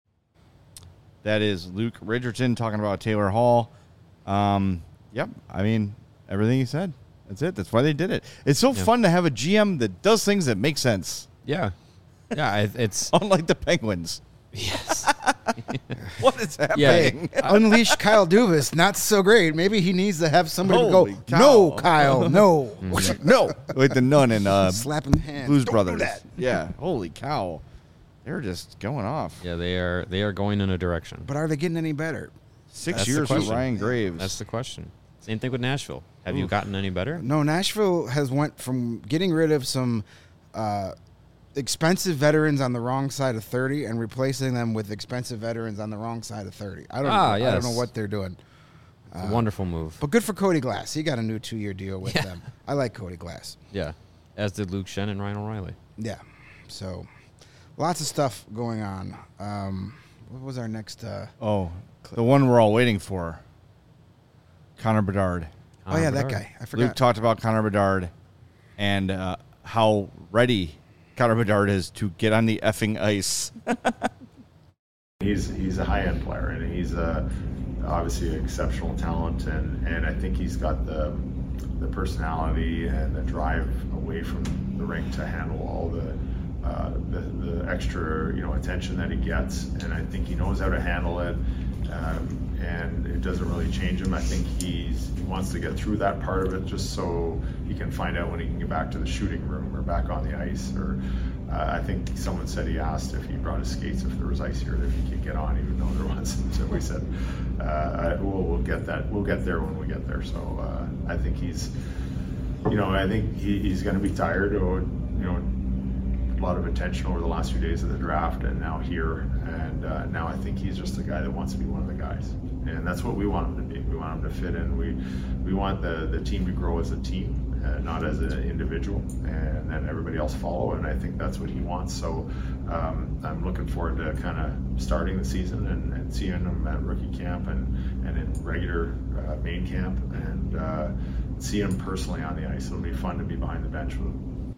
That is Luke Richardson talking about Taylor Hall. Um, yep, I mean everything he said. That's it. That's why they did it. It's so yeah. fun to have a G M that does things that make sense. Yeah. Yeah, it's... Unlike the Penguins. Yes. What is happening? Yeah. Unleash Kyle Dubas. Not so great. Maybe he needs to have somebody Holy to go, cow. no, Kyle, no. No. With the nun and uh, slapping the hands. Blues Don't Brothers. do that. Yeah. Holy cow. They're just going off. Yeah, they are They are going in a direction. But are they getting any better? Six That's years with Ryan Graves. That's the question. Same thing with Nashville. Have Oof. you gotten any better? No, Nashville has went from getting rid of some uh, expensive veterans on the wrong side of thirty and replacing them with expensive veterans on the wrong side of thirty. I don't, ah, know, yes. I don't know what they're doing. It's uh, a wonderful move. But good for Cody Glass. He got a new two-year deal with yeah. them. I like Cody Glass. Yeah, as did Luke Shen and Ryan O'Reilly. Yeah, so lots of stuff going on. Um, what was our next? Uh, oh, the one we're all waiting for. Connor Bedard. Connor oh, yeah, Bedard. that guy. I forgot. Luke talked about Connor Bedard and uh, how ready Connor Bedard is to get on the effing ice. he's he's a high-end player, and he's a, obviously an exceptional talent, and, and I think he's got the the personality and the drive away from the rink to handle all the, uh, the, the extra you know attention that he gets, and I think he knows how to handle it. Um, and it doesn't really change him. I think he's, he wants to get through that part of it just so he can find out when he can get back to the shooting room or back on the ice. Or uh, I think someone said he asked if he brought his skates, if there was ice here, if he could get on, even though there wasn't. So we said, uh, I, we'll, we'll get that. We'll get there when we get there. So uh, I think he's, you know, I think he, he's going to be tired or, you know, a lot of attention over the last few days of the draft and now here. And uh, now I think he's just a guy that wants to be one of the guys. And that's what we want him to be. We want him to fit in. We we want the, the team to grow as a team, uh, not as an individual, and then everybody else follow. And I think that's what he wants. So um, I'm looking forward to kind of starting the season and, and seeing him at rookie camp and, and in regular uh, main camp and uh, seeing him personally on the ice. It'll be fun to be behind the bench with him.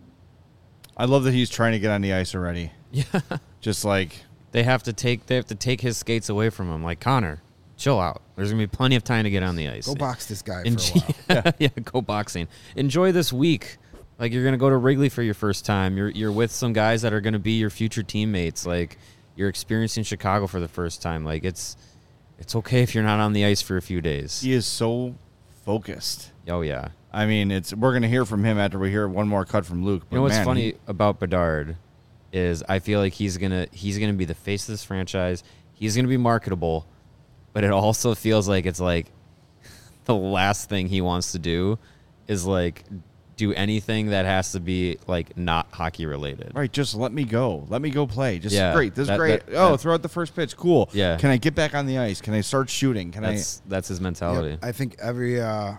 I love that he's trying to get on the ice already. Yeah. Just like they have to take they have to take his skates away from him. Like, Connor, chill out. There's gonna be plenty of time to get on the ice. Go box this guy En- for a while. yeah, yeah, go boxing. Enjoy this week. Like, you're gonna go to Wrigley for your first time. You're you're with some guys that are gonna be your future teammates. Like, you're experiencing Chicago for the first time. Like, it's it's okay if you're not on the ice for a few days. He is so focused. Oh yeah. I mean, it's we're gonna hear from him after we hear one more cut from Luke. You know what's man, funny he, about Bedard is I feel like he's gonna he's gonna be the face of this franchise. He's gonna be marketable, but it also feels like it's like the last thing he wants to do is like do anything that has to be like not hockey related. Right, just let me go. Let me go play. Just yeah, great. This that, is great. That, oh, that, throw out the first pitch. Cool. Yeah. Can I get back on the ice? Can I start shooting? Can that's, I? That's his mentality. Yep. I think every uh,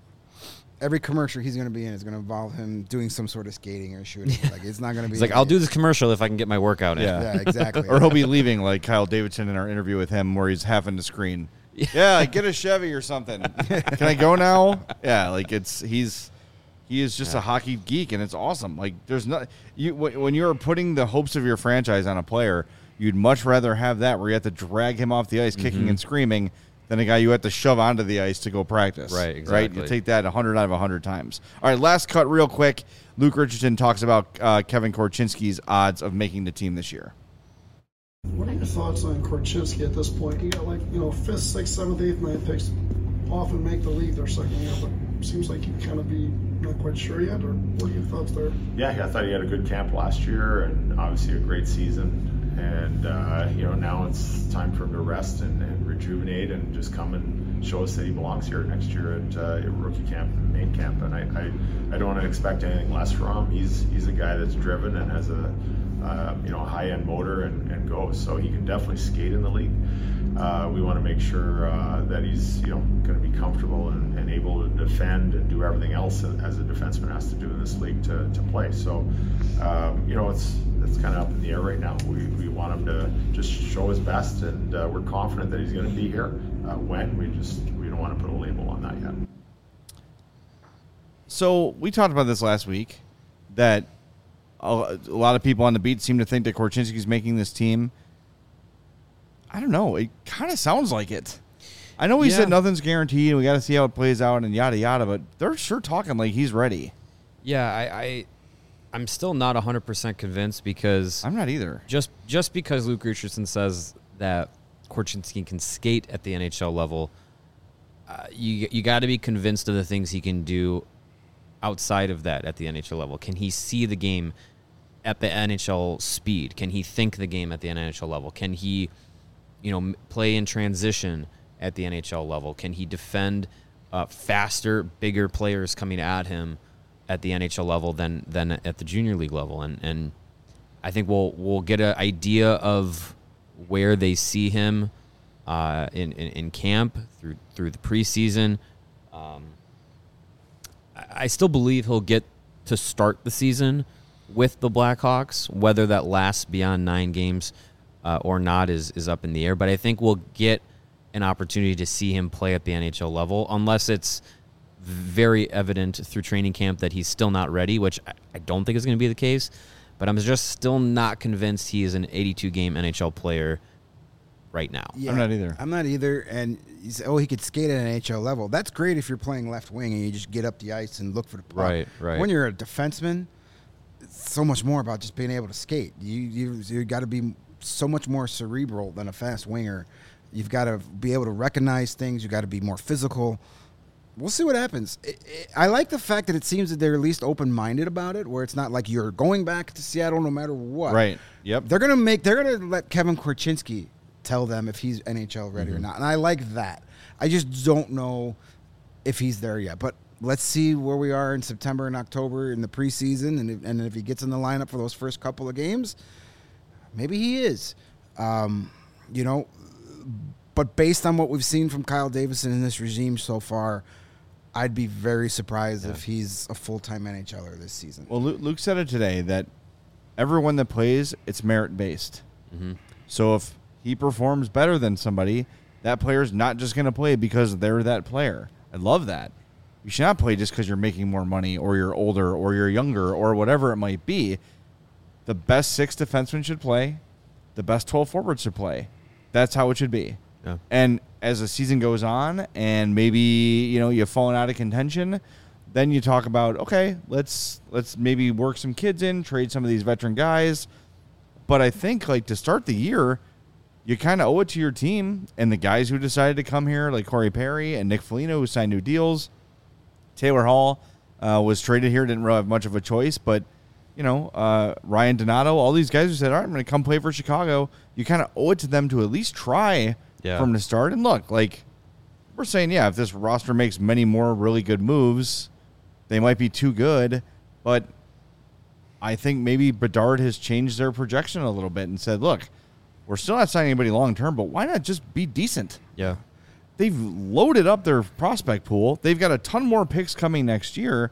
every commercial he's going to be in is going to involve him doing some sort of skating or shooting. Like, it's not going to be. He's like, I'll do this commercial if I can get my workout in. Yeah, yeah exactly. Or he'll be leaving like Kyle Davidson in our interview with him, where he's half in the screen. Yeah, like, get a Chevy or something. Can I go now? Yeah, like it's he's He is just Yeah. a hockey geek, and it's awesome. Like, there's not you when you're putting the hopes of your franchise on a player, you'd much rather have that where you have to drag him off the ice, kicking Mm-hmm. and screaming, than a guy you have to shove onto the ice to go practice. Right, Right. exactly. You take that one hundred out of one hundred times. All right, last cut, real quick. Luke Richardson talks about uh, Kevin Korchinski's odds of making the team this year. What are your thoughts on Korchinski at this point? You got like, you know, fifth, sixth, seventh, eighth, ninth picks often make the league their second year, but seems like you kind of be not quite sure yet, or what are your thoughts there? Yeah, I thought he had a good camp last year and obviously a great season. And, uh, you know, now it's time for him to rest and, and rejuvenate and just come and show us that he belongs here next year at, uh, at rookie camp and main camp. And I, I, I don't expect anything less from him. He's he's a guy that's driven and has a, uh, you know, a high-end motor and, and goes. So he can definitely skate in the league. Uh, we want to make sure uh, that he's, you know, going to be comfortable and, and able to defend and do everything else as a defenseman has to do in this league to, to play. So, um, you know, it's it's kind of up in the air right now. We, we want him to just show his best, and uh, we're confident that he's going to be here. Uh, when we just we don't want to put a label on that yet. So we talked about this last week, that a, a lot of people on the beat seem to think that Korchinski's making this team. I don't know. It kind of sounds like it. I know he Yeah. said nothing's guaranteed and we got to see how it plays out and yada yada, but they're sure talking like he's ready. Yeah, I, I I'm still not one hundred percent convinced because I'm not either. just just because Luke Richardson says that Korchinski can skate at the N H L level, uh, you you got to be convinced of the things he can do outside of that at the N H L level. Can he see the game at the N H L speed? Can he think the game at the N H L level? Can he, you know, m- play in transition at the N H L level? Can he defend uh, faster, bigger players coming at him at the N H L level than than at the junior league level? And and I think we'll we'll get an idea of where they see him uh, in, in in camp through through the preseason. Um, I I still believe he'll get to start the season with the Blackhawks. Whether that lasts beyond nine games uh, or not is is up in the air. But I think we'll get an opportunity to see him play at the N H L level, unless it's very evident through training camp that he's still not ready, which I, I don't think is going to be the case. But I'm just still not convinced he is an eighty-two game N H L player right now. Yeah, I'm not either. I'm not either. And you say, oh, he could skate at an N H L level. That's great if you're playing left wing and you just get up the ice and look for the puck. Right, right. When you're a defenseman, it's so much more about just being able to skate. You you you got to be so much more cerebral than a fast winger. You've got to be able to recognize things. You got to be more physical. We'll see what happens. It, it, I like the fact that it seems that they're at least open-minded about it, where it's not like you're going back to Seattle no matter what. Right. Yep. They're gonna make. They're gonna let Kevin Korchinski tell them if he's N H L ready Mm-hmm. or not, and I like that. I just don't know if he's there yet. But let's see where we are in September and October in the preseason, and if, and if he gets in the lineup for those first couple of games, maybe he is. Um, you know, but based on what we've seen from Kyle Davison in this regime so far, I'd be very surprised if he's a full-time NHLer this season. Well, Luke, Luke said it today that everyone that plays, it's merit-based. Mm-hmm. So if he performs better than somebody, that player's not just going to play because they're that player. I love that. You should not play just because you're making more money or you're older or you're younger or whatever it might be. The best six defensemen should play. The best twelve forwards should play. That's how it should be. Yeah. And as the season goes on and maybe, you know, you've fallen out of contention, then you talk about, okay, let's let's maybe work some kids in, trade some of these veteran guys. But I think, like, to start the year, you kind of owe it to your team and the guys who decided to come here, like Corey Perry and Nick Foligno, who signed new deals. Taylor Hall uh, was traded here, didn't really have much of a choice, but, you know, uh, Ryan Donato, all these guys who said, all right, I'm going to come play for Chicago, you kind of owe it to them to at least try Yeah. from the start. And look, like, we're saying, yeah, if this roster makes many more really good moves, they might be too good, but I think maybe Bedard has changed their projection a little bit and said, look, we're still not signing anybody long-term, but why not just be decent? Yeah. They've loaded up their prospect pool. They've got a ton more picks coming next year.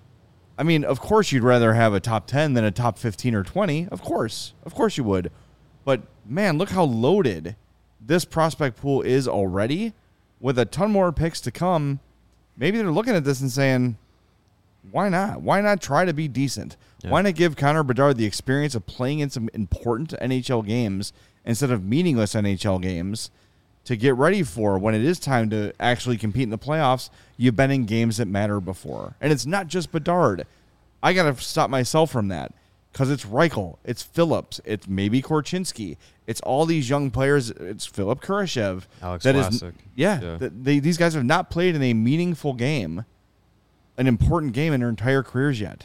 I mean, of course you'd rather have a top ten than a top fifteen or twenty. Of course. Of course you would. But, man, look how loaded this prospect pool is already with a ton more picks to come. Maybe they're looking at this and saying, why not? Why not try to be decent? Yeah. Why not give Connor Bedard the experience of playing in some important N H L games instead of meaningless N H L games to get ready for when it is time to actually compete in the playoffs? You've been in games that matter before. And it's not just Bedard. I got to stop myself from that because it's Reichel, it's Phillips, it's maybe Korchinski. It's all these young players. It's Philip Kurashev. Alex that Vlasic. Is, yeah, Yeah. that they, these guys have not played in a meaningful game, an important game in their entire careers yet.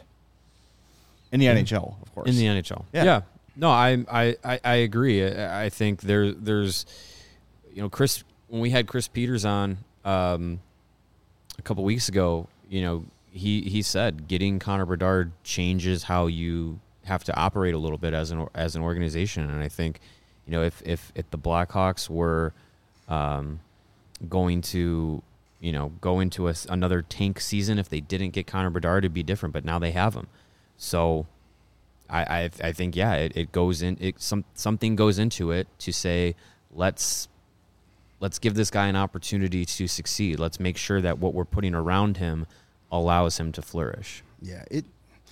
In the N H L, of course. In the N H L. Yeah. Yeah. No, I, I, I, I agree. I, I think there there's, you know, Chris, when we had Chris Peters on um, a couple weeks ago, you know, he, he said getting Connor Bedard changes how you have to operate a little bit as an as an organization. And I think, you know, if if, if the Blackhawks were um, going to, you know, go into a, another tank season, if they didn't get Connor Bedard, it'd be different. But now they have him. So I, I I think yeah it, it goes in it some something goes into it to say let's let's give this guy an opportunity to succeed. Let's make sure that what we're putting around him allows him to flourish. Yeah, it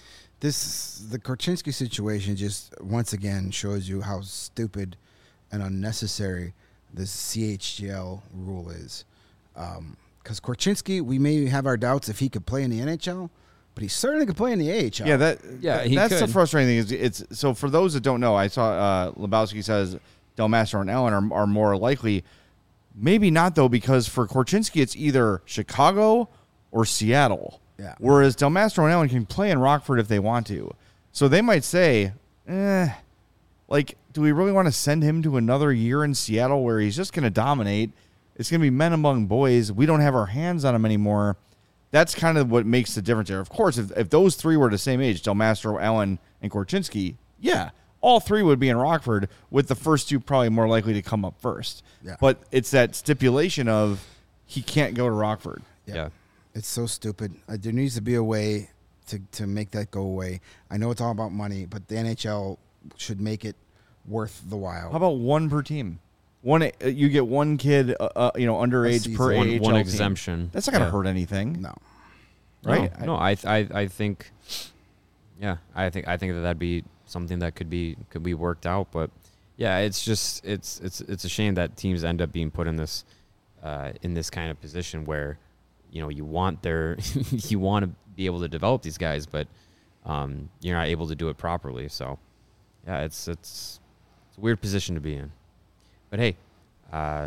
this the Korchinski situation just once again shows you how stupid and unnecessary this C H G L rule is. Because um, Korchinski, we may have our doubts if he could play in the N H L. But he certainly could play in the A H L. Yeah, that Yeah, he that's the could. frustrating thing. Is it's so for those that don't know, I saw uh, Lebowski says Del Mastro and Allen are, are more likely. Maybe not though, because for Korchinski it's either Chicago or Seattle. Yeah. Whereas Del Mastro and Allen can play in Rockford if they want to. So they might say, eh, like, do we really want to send him to another year in Seattle where he's just going to dominate? It's going to be men among boys. We don't have our hands on him anymore. That's kind of what makes the difference there. Of course, if, if those three were the same age, Del Mastro, Allen, and Korchinski, yeah, all three would be in Rockford, with the first two probably more likely to come up first. Yeah. But it's that stipulation of he can't go to Rockford. Yeah. Yeah. It's so stupid. Uh, there needs to be a way to, to make that go away. I know it's all about money, but the N H L should make it worth the while. How about one per team? One, uh, you get one kid, uh, uh, you know, underage season. per One, A H L one team. exemption. That's not going to Yeah. hurt anything, No. right? No, no, I, I, I think, yeah, I think, I think that that'd be something that could be, could be worked out. But yeah, it's just, it's, it's, it's a shame that teams end up being put in this, uh, in this kind of position where, you know, you want their, you want to be able to develop these guys, but um, you're not able to do it properly. So, yeah, it's, it's, it's a weird position to be in. But hey, uh,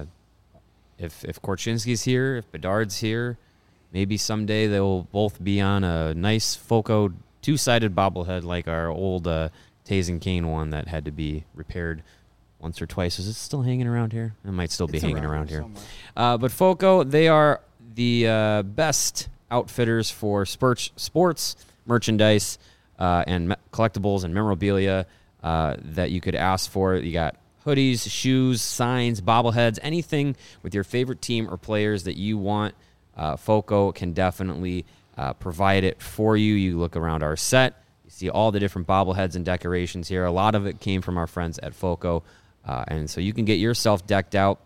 if if Korchinski's here, if Bedard's here, maybe someday they'll both be on a nice Foco two-sided bobblehead like our old uh, Taze and Kane one that had to be repaired once or twice. Is it still hanging around here? It might still be It's hanging around around here here. Uh, but Foco, they are the uh, best outfitters for Spurch sports, merchandise, uh, and me- collectibles and memorabilia uh, that you could ask for. You got hoodies, shoes, signs, bobbleheads, anything with your favorite team or players that you want. Uh, Foco can definitely uh, provide it for you. You look around our set, you see all the different bobbleheads and decorations here. A lot of it came from our friends at Foco. Uh, and so you can get yourself decked out,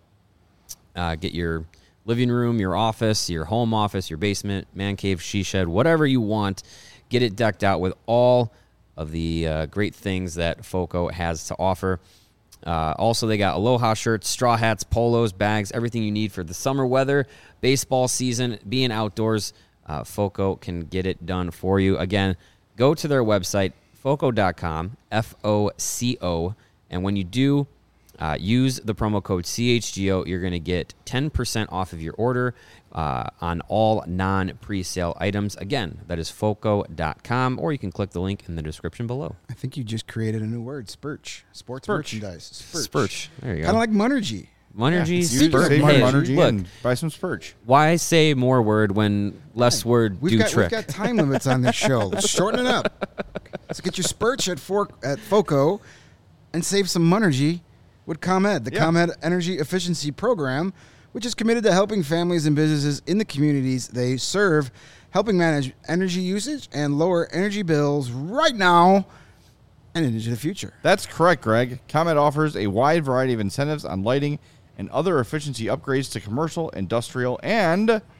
uh, get your living room, your office, your home office, your basement, man cave, she shed, whatever you want. Get it decked out with all of the uh, great things that Foco has to offer. Uh, also, they got Aloha shirts, straw hats, polos, bags, everything you need for the summer weather, baseball season, being outdoors. Uh, Foco can get it done for you. Again, go to their website, foco dot com, F O C O, and when you do, uh, use the promo code C H G O. You're going to get ten percent off of your order uh, on all non-presale items. Again, that is foco dot com, or you can click the link in the description below. I think you just created a new word, Spurch. Sports Spurch. merchandise. Spurch. There you go. Kind of like Monergy. Monergy, You Speaking just of say Hey, Monergy look, and buy some Spurch. why say more word when less word We've do got, trick? we've got time limits on this show. Let's shorten it up. Let's get your Spurch at, for, at Foco and save some Monergy with ComEd, the Yeah. ComEd Energy Efficiency Program, which is committed to helping families and businesses in the communities they serve, helping manage energy usage and lower energy bills right now and into the future. That's correct, Greg. ComEd offers a wide variety of incentives on lighting and other efficiency upgrades to commercial, industrial, and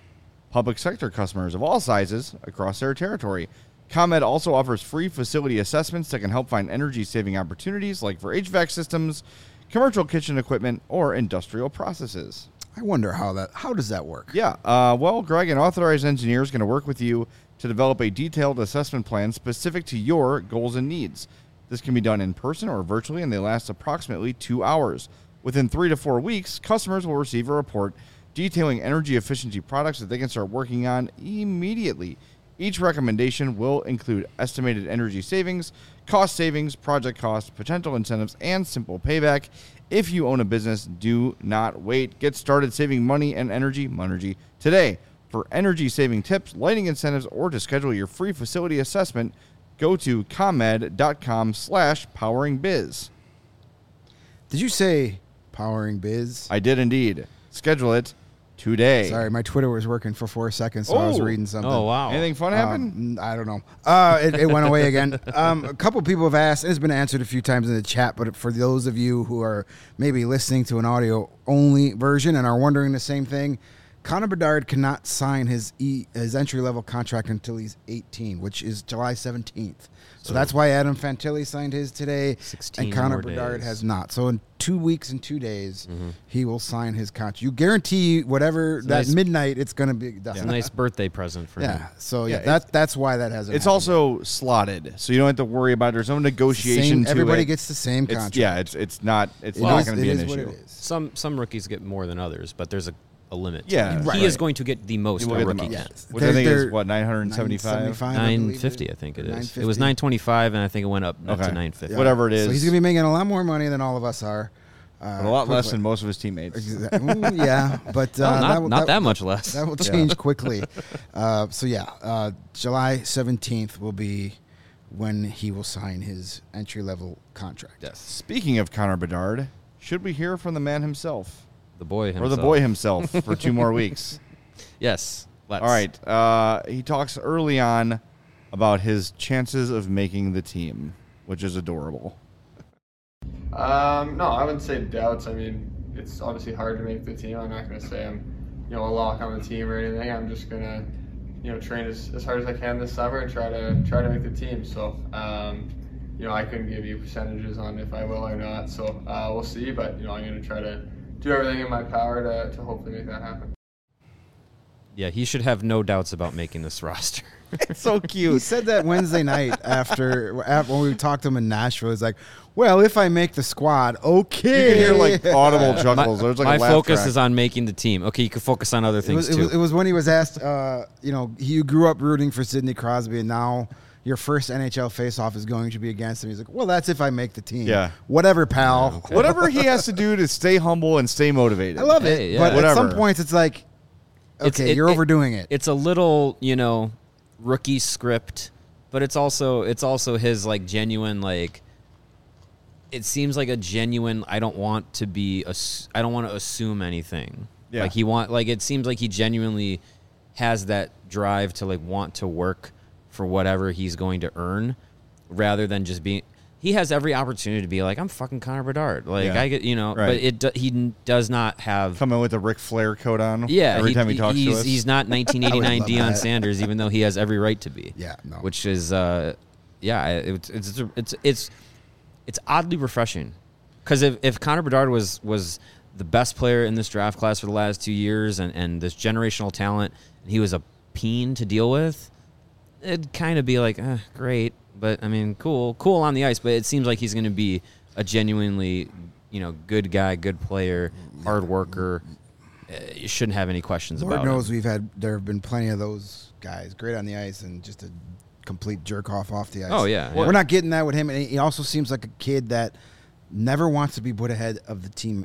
public sector customers of all sizes across their territory. ComEd also offers free facility assessments that can help find energy-saving opportunities like for H V A C systems, commercial kitchen equipment, or industrial processes. I wonder how that how does that work? Yeah, uh, well, Greg, an authorized engineer is going to work with you to develop a detailed assessment plan specific to your goals and needs. This can be done in person or virtually, and they last approximately two hours. Within three to four weeks, customers will receive a report detailing energy efficiency products that they can start working on immediately. Each recommendation will include estimated energy savings, cost savings, project costs, potential incentives, and simple payback. If you own a business, do not wait. Get started saving money and energy, Monergy, today. For energy-saving tips, lighting incentives, or to schedule your free facility assessment, go to comed.com slash poweringbiz. Did you say powering biz? I did indeed. Schedule it today. Sorry, my Twitter was working for four seconds, so I was Oh. reading something. Oh, wow. Anything fun happen? Um, I don't know. Uh, it, it went away again. Um, a couple people have asked, and it's been answered a few times in the chat, but for those of you who are maybe listening to an audio-only version and are wondering the same thing, Connor Bedard cannot sign his e, his entry-level contract until he's eighteen, which is July seventeenth. So, so that's why Adam Fantilli signed his today, and Connor more Bedard days. has not. So in two weeks and two days, Mm-hmm. he will sign his contract. You guarantee whatever, that nice- midnight, it's going to be done. It's a nice birthday present for him. Yeah, so yeah, Yeah, that that's why that hasn't. It's happened. also slotted, so you don't have to worry about it. There's no negotiation Same- to everybody it. gets the same It's- contract. Yeah, it's it's not it's It not is- going to it be is an what issue. it is. Some some rookies get more than others, but there's a, a limit. Yeah, he right, is right. going to get the most He will a get the rookie most. gets. Which I They're- think is they're what nine hundred seventy-five. nine seventy-five, I Nine believe fifty, it I think it is. is. It was nine twenty-five, and I think it went up up Okay. to nine fifty. Whatever it is. So he's going to be making a lot more money than all of us are. Uh, But a lot less quickly. than most of his teammates. Exactly. Mm, yeah, but uh, No, not, that, will- not that, that much less. that will change quickly. Uh, so yeah, uh, July seventeenth will be when he will sign his entry level contract. Yes. Speaking of Connor Bedard, should we hear from the man himself? The boy himself. Or the boy himself for two more weeks? Yes. Let's. All right. Uh, he talks early on about his chances of making the team, which is adorable. Um, no, I wouldn't say doubts. I mean, it's obviously hard to make the team. I'm not going to say I'm, you know, a lock on the team or anything. I'm just going to, you know, train as, as hard as I can this summer and try to try to make the team. So, um, you know, I couldn't give you percentages on if I will or not. So uh, we'll see. But you know, I'm going to try to do everything in my power to to hopefully make that happen. Yeah, he should have no doubts about making this roster. It's so He cute. said that Wednesday night after, after when we talked to him in Nashville. He's like, "Well, if I make the squad, okay." You can hear like audible chuckles. My, There's like my a laugh focus track. is on making the team. Okay, you can focus on other It things was, it, too. was, it was when he was asked, uh, you know, you grew up rooting for Sidney Crosby, and now your first N H L faceoff is going to be against him. He's like, well, that's if I make the team. Yeah. Whatever, pal. Whatever he has to do to stay humble and stay motivated. I love it. Hey, yeah. But at some Whatever. points, it's like, okay, It's- it- you're it- overdoing it. It's a little, you know, rookie script, but it's also it's also his like genuine like. It seems like a genuine. I don't want to be. ass- I don't want to assume anything. Yeah. Like he want. Like it seems like he genuinely has that drive to like want to work for whatever he's going to earn, rather than just being. He has every opportunity to be like, I'm fucking Connor Bedard. Like Yeah. I get, you know, Right. but it do, he n- does not have. Come in with a Ric Flair coat on. Yeah, Every time he talks he's, to us. he's not nineteen eighty-nine love Deion that. Sanders, even though he has every right to be. Yeah, no. Which is, uh, yeah, it's it's it's it's it's oddly refreshing, because if, if Connor Bedard was was the best player in this draft class for the last two years and, and this generational talent, and he was a peen to deal with, it'd kind of be like, eh, great, but I mean, cool, cool on the ice, but it seems like he's going to be a genuinely, you know, good guy, good player, hard worker. Uh, you shouldn't have any questions Lord about knows him. we've had, there have been plenty of those guys, great on the ice and just a complete jerk off off the ice. Oh, yeah, We're yeah. not getting that with him. And he also seems like a kid that never wants to be put ahead of the team.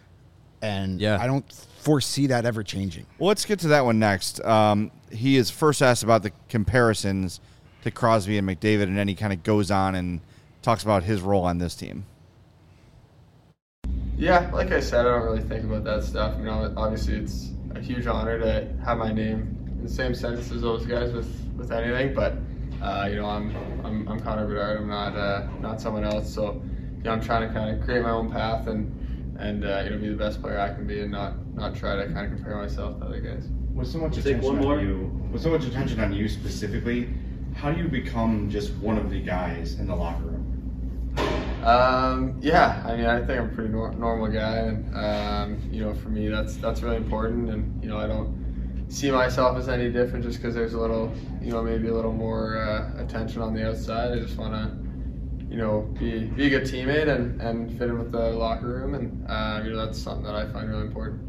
And Yeah. I don't foresee that ever changing. Well, let's get to that one next. Um, he is first asked about the comparisons to Crosby and McDavid, and then he kind of goes on and talks about his role on this team. Yeah, like I said, I don't really think about that stuff. You know, obviously it's a huge honor to have my name in the same sentence as those guys with, with anything. But uh, you know, I'm I'm I'm Connor Bedard. I'm not uh, not someone else. So you know, I'm trying to kind of create my own path and and uh, you know, be the best player I can be, and not not try to kind of compare myself to other guys. with so much Take attention one on more. you, with so much attention on you specifically, how do you become just one of the guys in the locker room? Um, yeah, I mean, I think I'm a pretty nor- normal guy, and um, you know, for me, that's that's really important. And you know, I don't see myself as any different just because there's a little, you know, maybe a little more uh, attention on the outside. I just want to, you know, be be a good teammate and, and fit in with the locker room, and uh, you know, that's something that I find really important.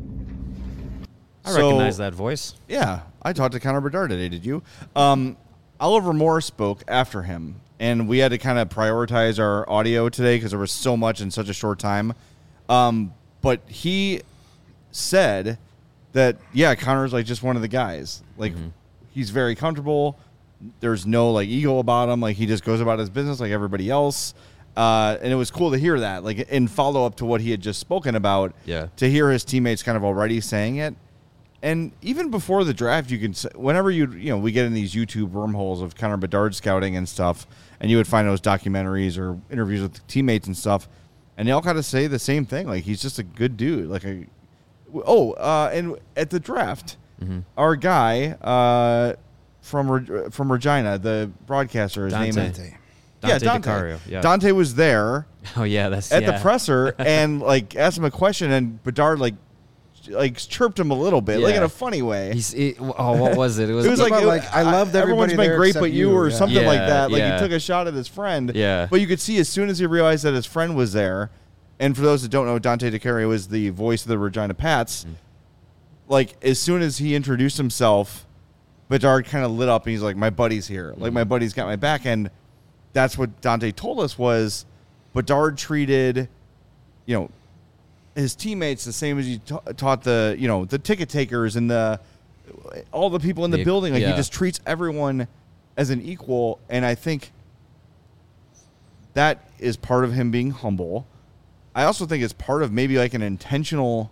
I So- recognize that voice. Yeah, I talked to Connor Bedard today. Did you? Um, Oliver Moore spoke after him, and we had to kind of prioritize our audio today because there was so much in such a short time. Um, but he said that, yeah, Connor's like just one of the guys. Like, Mm-hmm. he's very comfortable. There's no like ego about him. Like, he just goes about his business like everybody else. Uh, and it was cool to hear that, like in follow up to what he had just spoken about. Yeah. To hear his teammates kind of already saying it. And even before the draft, you can, s- whenever you, you know, we get in these YouTube wormholes of Connor Bedard scouting and stuff, and you would find those documentaries or interviews with teammates and stuff, and they all kind of say the same thing. Like, he's just a good dude. Like, a, oh, uh, and at the draft, Mm-hmm. our guy uh, from Re- from Regina, the broadcaster, his name is Dante. yeah, Dante Dante. DiCario, yeah. Dante was there Oh yeah, that's at yeah. the presser and like asked him a question, and Bedard like like chirped him a little bit, like Yeah. in a funny way. He's it, oh, what was it? It was, It was like, About, it- like, I loved everyone's everybody been there great, except but you, you, or yeah. something like Yeah, that. Like yeah. he took a shot at his friend. Yeah. But you could see as soon as he realized that his friend was there, and for those that don't know, Dante DiCario was the voice of the Regina Pats. Mm. Like as soon as he introduced himself, Bedard kind of lit up, and he's like, "My buddy's here. Like my buddy's got my back." And that's what Dante told us was Bedard treated, you know, his teammates the same as he ta- taught the, you know, the ticket takers and the all the people in the The- building. Like yeah. he just treats everyone as an equal, and I think that is part of him being humble. I also think it's part of maybe like an intentional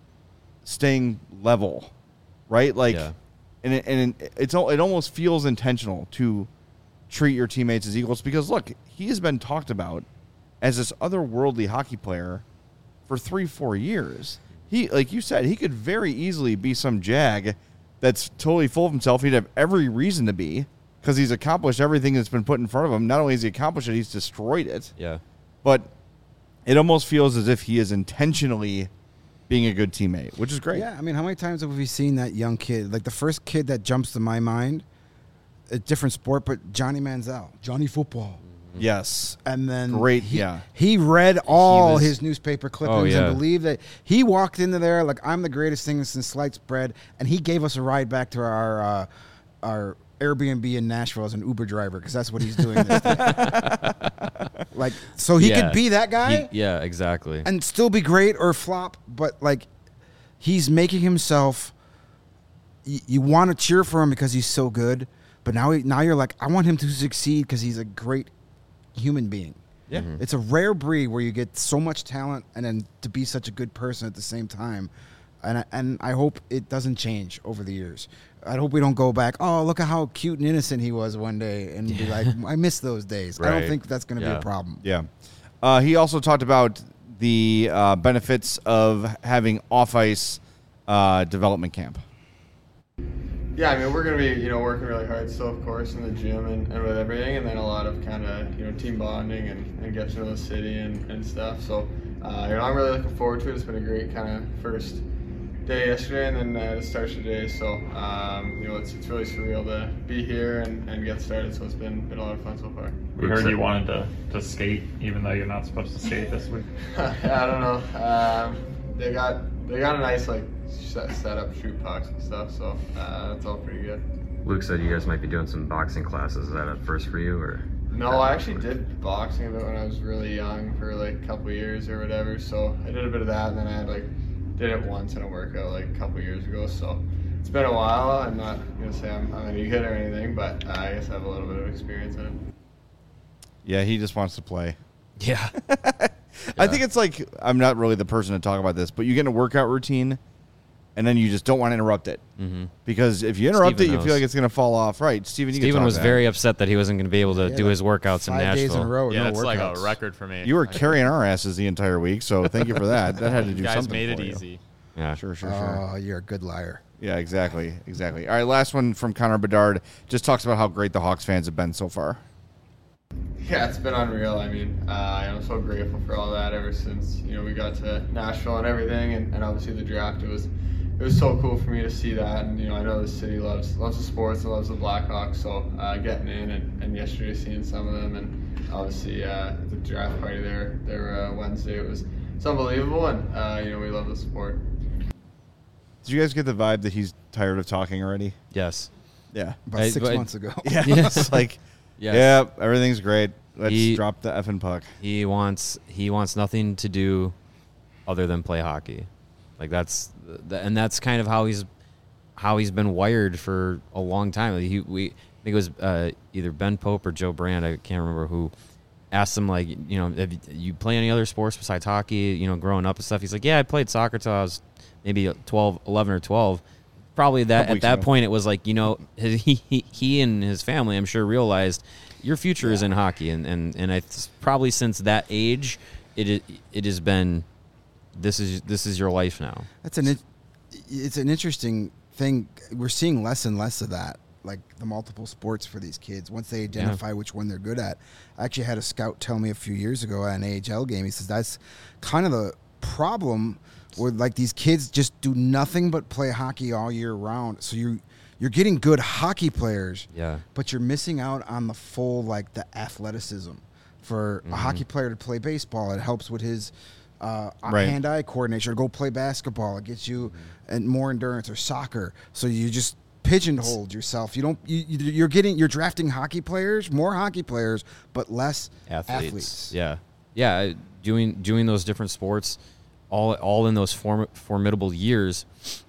staying level, right? Like, Yeah. and it, and it, it's al- it almost feels intentional to treat your teammates as equals because look, he has been talked about as this otherworldly hockey player for three, four years. He, like you said, he could very easily be some jag that's totally full of himself. He'd have every reason to be because he's accomplished everything that's been put in front of him. Not only has he accomplished it, he's destroyed it. Yeah. But it almost feels as if he is intentionally being a good teammate, which is great. Yeah, I mean, how many times have we seen that young kid? Like the first kid that jumps to my mind, a different sport, but Johnny Manziel, Johnny Football. Yes. And then Great, he, yeah. he read all was- his newspaper clippings Oh, yeah. and believed that he walked into there like I'm the greatest thing since sliced bread, and he gave us a ride back to our uh, our Airbnb in Nashville as an Uber driver because that's what he's doing. This day. Like, so he Yeah. could be that guy He- yeah, exactly. and still be great or flop, but like he's making himself. Y- you want to cheer for him because he's so good, but now he, now you're like, I want him to succeed because he's a great human being. Yeah. Mm-hmm. It's a rare breed where you get so much talent and then to be such a good person at the same time. And I, and I hope it doesn't change over the years. I hope we don't go back, oh, look at how cute and innocent he was one day and be like, I miss those days. I Right. don't think that's going to be Yeah. a problem. Yeah. Uh, he also talked about the uh, benefits of having off-ice uh, development camp. Yeah, I mean, we're going to be, you know, working really hard still, of course, in the gym and, and with everything, and then a lot of kind of, you know, team bonding and, and getting to know the city and, and stuff. So, uh, you know, I'm really looking forward to it. It's been a great kind of first day yesterday and then uh, to start today. So, um, you know, it's, it's really surreal to be here and, and get started. So it's been, been a lot of fun so far. We heard you wanted to, to skate, even though you're not supposed to skate this week. Yeah, I don't know. Um, they got they got a nice like set, set up shoot pucks and stuff. So uh, that's all pretty good. Luke said you guys might be doing some boxing classes. Is that a first for you, or? No, I actually did boxing a bit when I was really young for like a couple of years or whatever. So I did a bit of that, and then I had like did it once in a workout like a couple of years ago. So it's been a while. I'm not gonna say I'm, I'm any good or anything, but uh, I guess I have a little bit of experience in it. Yeah, he just wants to play. Yeah. I think it's like, I'm not really the person to talk about this, but you get in a workout routine and then you just don't want to interrupt it. Mm-hmm. Because if you interrupt Steven it, you feel knows. like it's going to fall off. Right, Steven, you can Steven talk was to that. very upset that he wasn't going to be able to Yeah, do like his workouts in five Nashville. days in a row, Yeah, no it's like workouts. a record for me. You were I- carrying our asses the entire week, so thank you for that. That had to do You guys something made it for you. easy. Yeah, sure, sure, sure. Oh, you're a good liar. Yeah, exactly, exactly. All right, last one from Connor Bedard. Just talks about how great the Hawks fans have been so far. Yeah, it's been unreal. I mean, uh, I'm so grateful for all that ever since, you know, we got to Nashville and everything, and, and obviously the draft. It was it was so cool for me to see that, and, you know, I know the city loves loves the sports and loves the Blackhawks, so uh, getting in and, and yesterday seeing some of them, and obviously uh, the draft party there there uh, Wednesday, it was it's unbelievable, and, uh, you know, we love the sport. Did you guys get the vibe that he's tired of talking already? Yes. Yeah. About I- six but- months ago. Yeah. Yes. It's like, Yes. yeah, everything's great. Let's He- drop the effing puck. He wants he wants nothing to do other than play hockey. Like that's the, and that's kind of how he's how he's been wired for a long time. Like he we I think it was uh, either Ben Pope or Joe Brand, I can't remember who, asked him, like, you know, have you, you play any other sports besides hockey, you know, growing up and stuff? He's like, yeah, I played soccer till I was maybe twelve, eleven or twelve. Probably that Couple at that weeks ago. point it was like, you know, his, he, he he and his family, I'm sure, realized your future is in hockey, and and and I probably since that age, it it, it has been this is this is your life now. That's an it- it's an interesting thing. We're seeing less and less of that, like the multiple sports for these kids. Once they identify Yeah. which one they're good at. I actually had a scout tell me a few years ago at an A H L game. He says that's kind of the problem where, like, these kids just do nothing but play hockey all year round. So you you're getting good hockey players, Yeah. but you're missing out on the full, like, the athleticism. For Mhm. a hockey player to play baseball, it helps with his uh, Right. hand-eye coordination. Or go play basketball, it gets you and more endurance. Or soccer, so you just pigeonholed yourself. You don't. You, you- you're getting. You're drafting hockey players, more hockey players, but less athletes. athletes. Yeah, yeah. Doing doing those different sports, all all in those form, formidable years,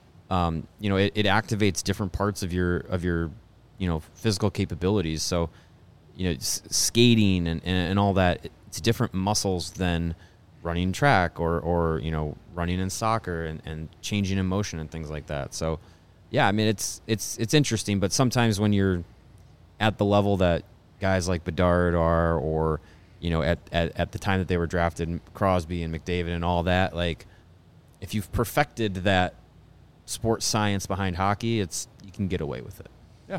um, you know, it, it activates different parts of your of your, you know, physical capabilities. So, you know, s- skating and, and and all that, it's different muscles than running track or or you know, running in soccer and, and changing in motion and things like that. So, yeah, I mean, it's it's it's interesting, but sometimes when you're at the level that guys like Bedard are, or, you know, at, at, at the time that they were drafted, Crosby and McDavid and all that, like, if you've perfected that sports science behind hockey, it's you can get away with it. Yeah.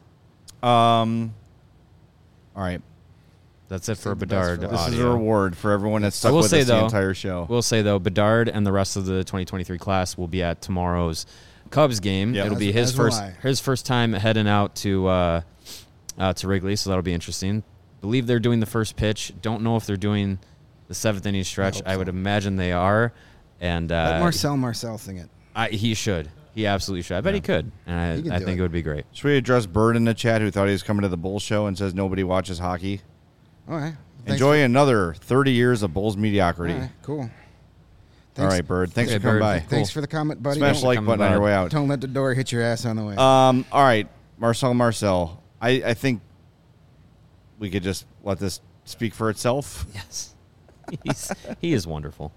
Um. All right. That's it for Save the best Bedard for This audio. is a reward for everyone that I stuck will with say, us the though, entire show. We'll say, though, Bedard and the rest of the twenty twenty-three class will be at tomorrow's Cubs game. Yep. It'll As- be his as will first I. his first time heading out to uh, uh, to Wrigley, so that'll be interesting. Believe they're doing the first pitch. Don't know if they're doing the seventh inning stretch. hope I, so. would imagine they are. And Let uh, Marcel Marcel sing it. I, he should. He absolutely should. I bet he could. And He can I, I do think it. it would be great. Should we address Bird in the chat who thought he was coming to the Bulls show and says nobody watches hockey? All right. Thanks Enjoy for- another thirty years of Bulls mediocrity. All right, cool. All Thanks- right, Bird. Thanks Okay, for coming Bird. by. Thanks Cool. for the comment, buddy. Smash Don't- the like Coming button on by. your way out. Don't let the door hit your ass on the way. Um. All right, Marcel Marcel. I, I think we could just let this speak for itself. Yes. He's, he is wonderful.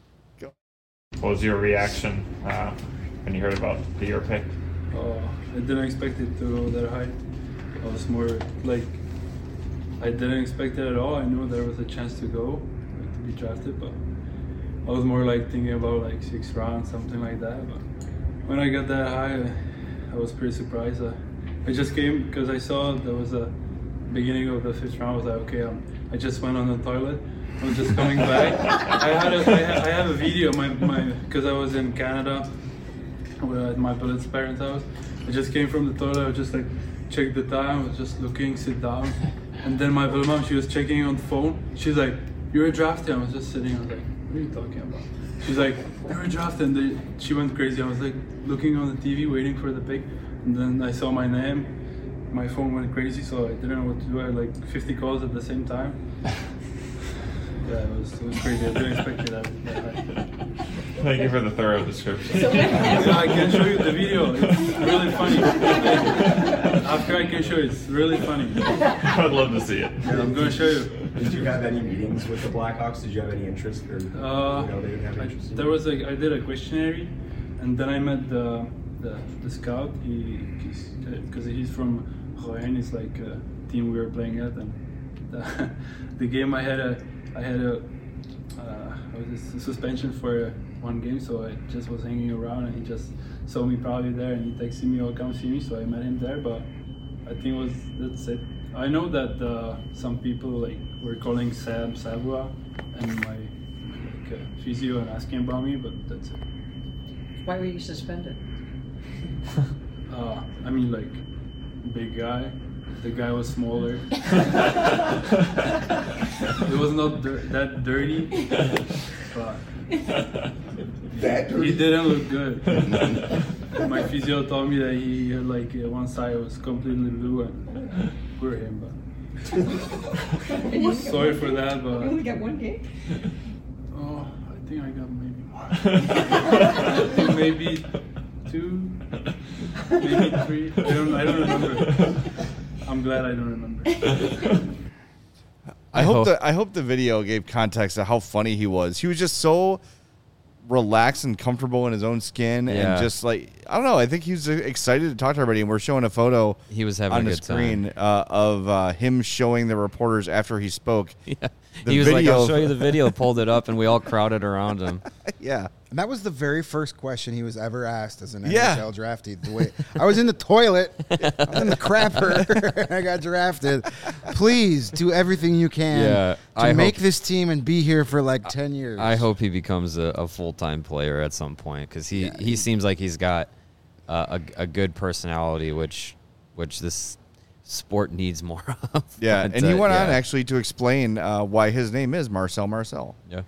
What was your reaction uh, when you heard about the year pick? Uh, I didn't expect it to go that high. I was more like, I didn't expect it at all. I knew there was a chance to go, like, to be drafted, but I was more like thinking about like six rounds, something like that. But when I got that high, I, I was pretty surprised. Uh, I just came because I saw there was a beginning of the fifth round. I was like, okay, um, I just went on the toilet. I was just coming back. I had a, I, ha- I have a video, my my, because I was in Canada at my buddy's parents' house. I just came from the toilet. I was just like, checked the time. I was just looking, sit down, and then my buddy mom, she was checking on the phone. She's like, "You were drafted." I was just sitting. I was like, "What are you talking about?" She's like, "You were drafted." And they, she went crazy. I was like looking on the T V, waiting for the pick, and then I saw my name. My phone went crazy, so I didn't know what to do. I had like fifty calls at the same time. Yeah, it was, it was crazy. I didn't expect it that, that high. Thank you for the thorough description. Yeah, I can show you the video. It's really funny. After I can show you, it's really funny. I'd love to see it. Yeah, I'm gonna show you. Did you have any meetings with the Blackhawks? Did you have any interest, or Uh, you know, they didn't have I, interest? in there you? was like I did a questionnaire, and then I met the the, the scout. He because he's from Rouen. It's like a team we were playing at, and the, the game I had a I had a uh, what was this, a suspension for one game, so I just was hanging around, and he just saw me probably there, and he texted me, "Oh, come see me." So I met him there, but I think it was that's it. I know that uh, some people like were calling Sam Savoie and my like uh, physio and asking about me, but that's it. Why were you suspended? uh, I mean, like big guy. The guy was smaller. It was not dir- that dirty, but that dirty? He didn't look good. My physio told me that he had like uh, one side was completely blue, and poor him. But sorry for that. But you only got one game. Oh, I think I got maybe one. Maybe two, maybe three. I don't. I don't remember. I'm glad I don't remember. I hope the I hope the video gave context of how funny he was. He was just so relaxed and comfortable in his own skin, Yeah. and just like I don't know. I think he was excited to talk to everybody. And we're showing a photo. He was having on a the good screen uh, of uh, him showing the reporters after he spoke. Yeah. The He was like, "I'll video- show you the video." Pulled it up, and we all crowded around him. Yeah. And that was the very first question he was ever asked as an Yeah. N H L draftee. The way I was in the toilet, I was in the crapper, I got drafted. Please do everything you can Yeah, to I make hope- this team and be here for like ten years. I hope he becomes a, a full time player at some point because he, Yeah, he he- seems like he's got uh, a a good personality, which which this sport needs more of. Yeah, But, and he uh, went on yeah. actually to explain uh, why his name is Marcel Marcel. Yeah.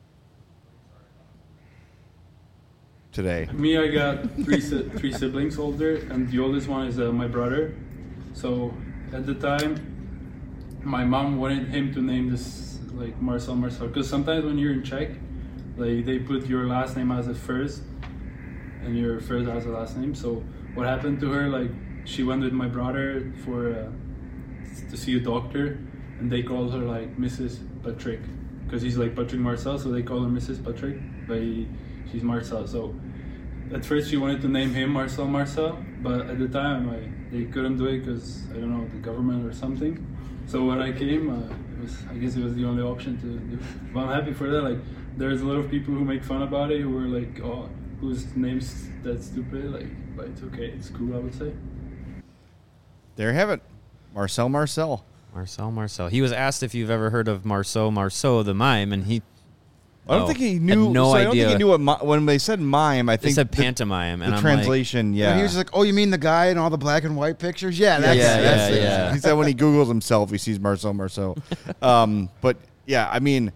Today. Me, I got three si- three siblings older, and the oldest one is uh, my brother. So at the time, my mom wanted him to name this like Marcel Marcel, because sometimes when you're in Czech, like they put your last name as a first, and your first as a last name. So what happened to her? Like she went with my brother for uh, to see a doctor, and they called her like Missus Patrick, because he's like Patrick Marcel, so they call her Missus Patrick, but he, she's Marcel. So at first she wanted to name him Marcel Marcel, but at the time I, they couldn't do it because I don't know, the government or something. So when I came, uh, it was I guess it was the only option to do. But I'm happy for that. Like there's a lot of people who make fun about it, who are like, oh, whose name's that stupid? Like, but it's okay, it's cool, I would say. There you have it, Marcel Marcel. Marcel Marcel. He was asked if you've ever heard of Marceau Marceau the mime, and he. I don't oh, think he had knew. No so I idea. don't think he knew what mi- when they said mime. I They think said the- pantomime, The and I'm translation, like- yeah. And he was just like, "Oh, you mean the guy in all the black and white pictures? Yeah, Yeah, that's, yeah, that's yeah, it." yeah. He said when he Googles himself, he sees Marcel Marceau. Um, but yeah, I mean,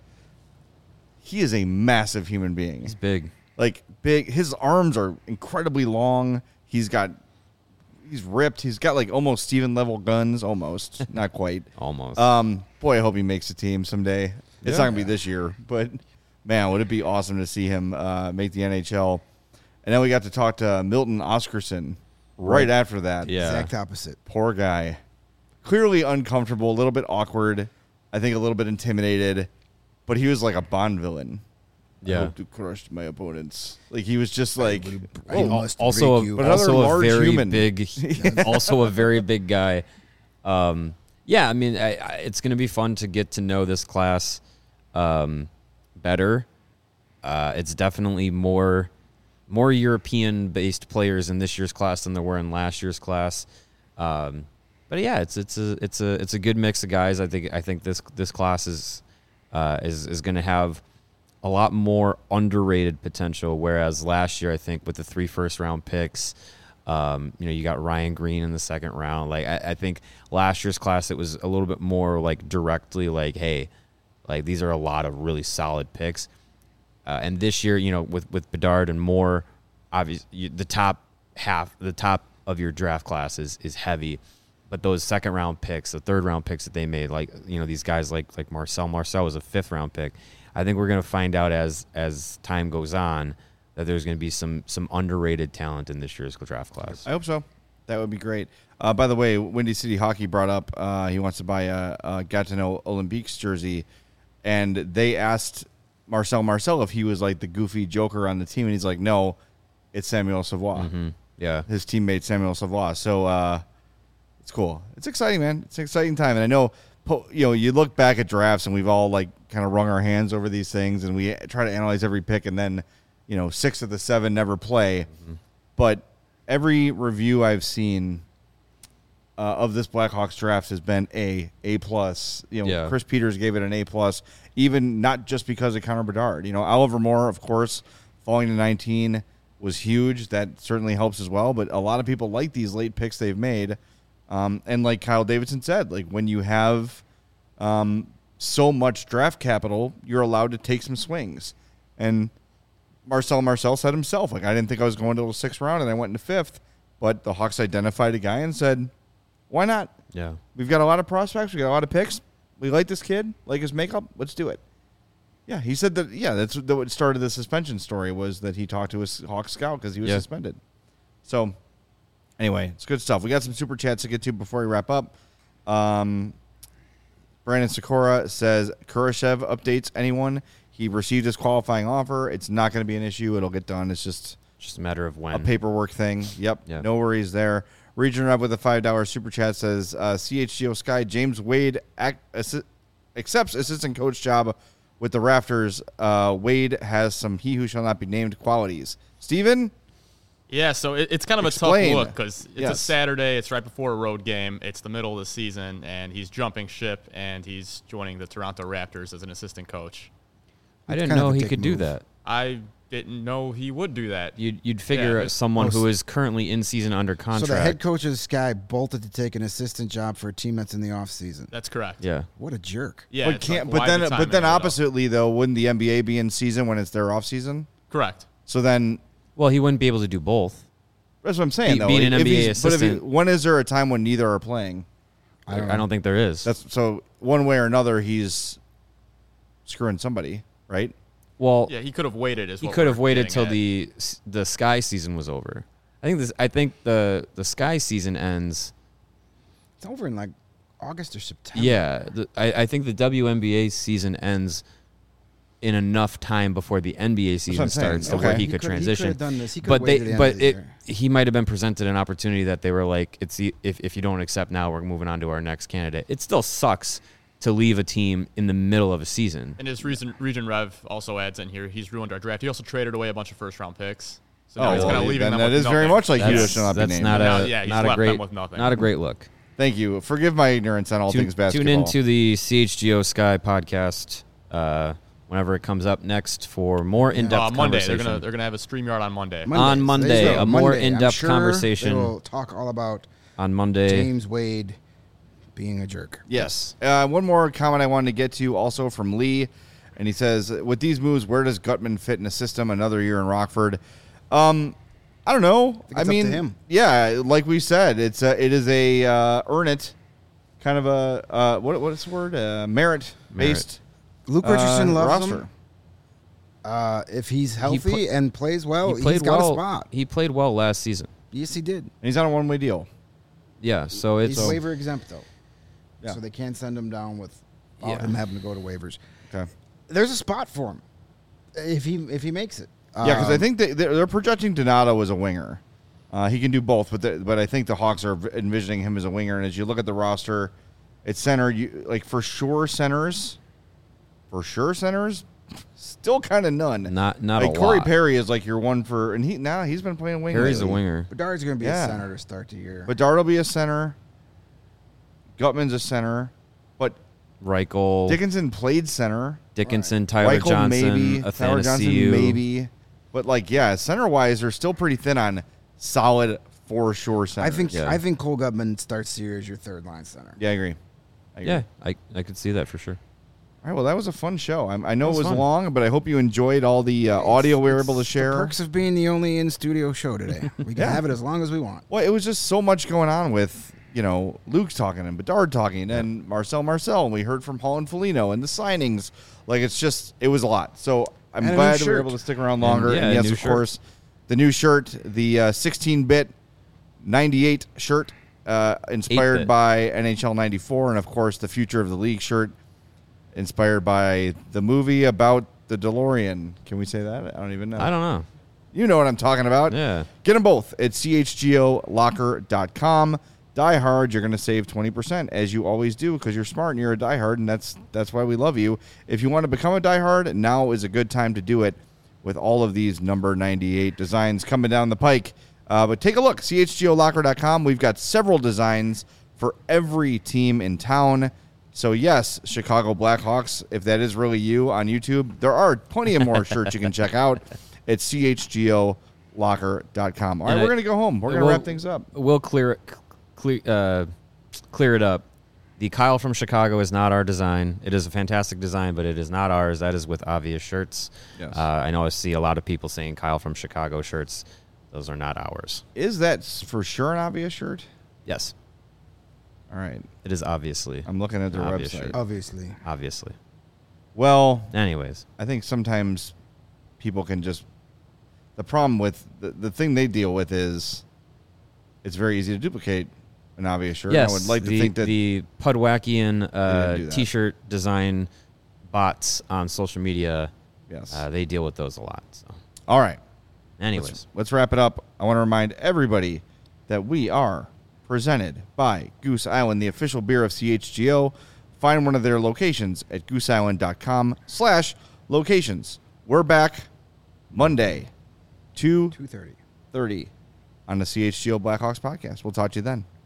he is a massive human being. He's big. Like big. His arms are incredibly long. He's got, he's ripped. He's got like almost Steven level guns, almost, not quite, almost. Um, boy, I hope he makes the team someday. It's Yeah. not gonna be this year, but man, would it be awesome to see him uh, make the N H L? And then we got to talk to Milton Oscarsson right, Right. after that. Yeah. Exact opposite. Poor guy. Clearly uncomfortable, a little bit awkward. I think a little bit intimidated, but he was like a Bond villain. I Yeah. hope to crush my opponents. Like he was just like I oh, must also, break you. but another also a large very human. big, also a very big guy. Um, yeah, I mean, I, I, it's going to be fun to get to know this class um, better. Uh, it's definitely more more European-based players in this year's class than there were in last year's class. Um, but yeah, it's it's a it's a it's a good mix of guys. I think I think this this class is uh, is is going to have a lot more underrated potential, whereas last year I think with the three first round picks, um, you know, you got Ryan Green in the second round. Like I, I think last year's class it was a little bit more like directly like, hey, like these are a lot of really solid picks. Uh, and this year, you know, with with Bedard and Moore, obviously the top half, the top of your draft class is is heavy. But those second round picks, the third round picks that they made, like you know these guys like like Marcel Marcel was a fifth round pick. I think we're going to find out as as time goes on that there's going to be some some underrated talent in this year's draft class. I hope so. That would be great. Uh, by the way, Windy City Hockey brought up uh, he wants to buy a, a Gatineau Olympiques jersey, and they asked Marcel Marcel if he was like the goofy joker on the team, and he's like, no, it's Samuel Savoie. Mm-hmm. Yeah, his teammate Samuel Savoie. So uh, it's cool. It's exciting, man. It's an exciting time, and I know po- you know, you look back at drafts and we've all like kind of wrung our hands over these things, and we try to analyze every pick, and then you know, six of the seven never play. Mm-hmm. But every review I've seen uh, of this Blackhawks draft has been A, A plus. You know, Yeah. Chris Peters gave it an A plus, even not just because of Connor Bedard. You know, Oliver Moore, of course, falling to nineteen was huge. That certainly helps as well. But a lot of people like these late picks they've made. Um, and like Kyle Davidson said, like when you have um, so much draft capital, you're allowed to take some swings. And Marcel Marcel said himself, like, I didn't think I was going to the sixth round, and I went into fifth. But the Hawks identified a guy and said, why not? Yeah. We've got a lot of prospects. We got a lot of picks. We like this kid, like his makeup. Let's do it. Yeah, he said that, yeah, that's what started the suspension story, was that he talked to his Hawks scout because he was Yeah. suspended. So, anyway, it's good stuff. We got some super chats to get to before we wrap up. Um, Brandon Sikora says, Kurashev updates anyone. He received his qualifying offer. It's not going to be an issue. It'll get done. It's just, just a matter of when. A paperwork thing. Yep. Yep. No worries there. Region Rev with a five dollar super chat says, uh, C H G O Sky, James Wade ac- assi- accepts assistant coach job with the Rafters. Uh, Wade has some he who shall not be named qualities. Steven? Yeah, so it, it's kind of Explain. a tough look because it's Yes. a Saturday. It's right before a road game. It's the middle of the season, and he's jumping ship, and he's joining the Toronto Raptors as an assistant coach. I didn't know he could do that. I didn't know he would do that. You'd, you'd figure Yeah, but- someone who is currently in season under contract. So the head coach of Sky bolted to take an assistant job for a team that's in the offseason. That's correct. Yeah. What a jerk. Yeah, but it's can't. like, but why then, the but timing then, of it all? oppositely though, wouldn't the N B A be in season when it's their off season? Correct. So then, well, he wouldn't be able to do both. That's what I'm saying. Be- though, being an If N B A he's- but if he- assistant- when is there a time when neither are playing? I don't, I don't think there is. That's so one way or another, he's screwing somebody, right? Well, Yeah, he could have waited. Is he what could we're have waited getting till at. the the Sky season was over. I think this. I think the the Sky season ends. It's over in like August or September. Yeah, the, I, I think the W N B A season ends in enough time before the N B A what season I'm saying. starts to Okay. where he, He could could- he transition. could've done this. He could've but they, waited to the but end of the it, year. he might have been presented an opportunity that they were like, it's the, if if you don't accept now, we're moving on to our next candidate. It still sucks to leave a team in the middle of a season. And his region, region Rev also adds in here, he's ruined our draft. He also traded away a bunch of first round picks. So now Oh, he's well, kind of leaving then them that with is very nothing. much like he That's, should not be that's named. not Now, a yeah, he's not a left them great with nothing. not a great look. Thank you. Forgive my ignorance on all Tune, things basketball. tune into the C H G O Sky podcast uh, whenever it comes up next for more in-depth Uh, Monday, conversation. they're gonna they're gonna have a StreamYard on Monday. On Monday, They will. a more Monday. I'm in-depth sure conversation. They will talk all about on Monday. James Wade being a jerk. Yes. Uh, one more comment I wanted to get to also from Lee. And he says, with these moves, where does Gutman fit in a system another year in Rockford? Um, I don't know. think I it's up mean, to him. yeah, like we said, it's a, it is a uh, earn it kind of a uh, what what's the word uh, merit based. Luke Richardson uh, loves roster. him. Uh, if he's healthy pla- and plays well, he played he's got well. a spot. He played well last season. Yes, he did. And he's on a one way deal. Yeah, so it's He's waiver exempt though, Yeah. so they can't send him down with all Yeah. him having to go to waivers. Okay. There's a spot for him if he if he makes it. Yeah, because I Um, think they, they're, they're projecting Donato as a winger. Uh, he can do both, but the, but I think the Hawks are envisioning him as a winger. And as you look at the roster, it's center. You like for sure centers, for sure centers, still kind of none. Not not like a Corey lot. Perry is like your one for, and he now he's been playing wing. Perry's a lately. winger. Bedard's going to be Yeah. a center to start the year. But Dart will be a center. Gutman's a center, but Reichel, Dickinson played center. Dickinson, Tyler Reichel Johnson, maybe, Tyler Johnson Athanasiou. maybe, but like yeah, center wise, they're still pretty thin on solid for sure center. I think Yeah. I think Cole Gutman starts the year as your third line center. Yeah, I agree. I agree. Yeah, I I could see that for sure. All right. Well, that was a fun show. I'm, I know It it was was fun. long, but I hope you enjoyed all the uh, audio we were able to It's share. The perks of being the only in studio show today. We can Yeah. have it as long as we want. Well, it was just so much going on with, you know, Luke's talking and Bedard talking and Marcel Marcel. And we heard from Paul and Foligno and the signings. Like, it's just, it was a lot. So I'm And a new glad that we were shirt. able to stick around longer. yeah, And, a yes, new of shirt. course, the new shirt, the uh, sixteen-bit ninety-eight shirt uh, inspired eight-bit. by N H L ninety-four. And, of course, the Future of the League shirt inspired by the movie about the DeLorean. Can we say that? I don't even know. I don't know. You know what I'm talking about. Yeah. Get them both at c h g o locker dot com. Die Hard, you're going to save twenty percent, as you always do, because you're smart and you're a Die Hard, and that's that's why we love you. If you want to become a Die Hard, now is a good time to do it with all of these number ninety-eight designs coming down the pike. Uh, but take a look, C H G O locker dot com. We've got several designs for every team in town. So, yes, Chicago Blackhawks, if that is really you on YouTube, there are plenty of more shirts you can check out at C H G O locker dot com. All right, And we're I- going to go home. We're going to we'll- wrap things up. We'll clear it, clear, uh, clear it up. The Kyle from Chicago is not our design. It is a fantastic design, but it is not ours. That is with Obvious Shirts. Yes. Uh, I know I see a lot of people saying Kyle from Chicago shirts. Those are not ours. Is that s- for sure an Obvious shirt? Yes. All right. It is obviously. I'm looking at their an obvious website. shirt. Obviously. Obviously. Well, anyways, I think sometimes people can just. The problem with the, the thing they deal with is it's very easy to duplicate an Obvious shirt. Yes, I would like to the, think that the Pudwackian They didn't uh, do that. T-shirt design bots on social media, yes, uh, they deal with those a lot. So. All right. Anyways. Let's, let's wrap it up. I want to remind everybody that we are presented by Goose Island, the official beer of C H G O. Find one of their locations at goose island dot com slash locations. We're back Monday, two two thirty thirty on the C H G O Blackhawks podcast. We'll talk to you then.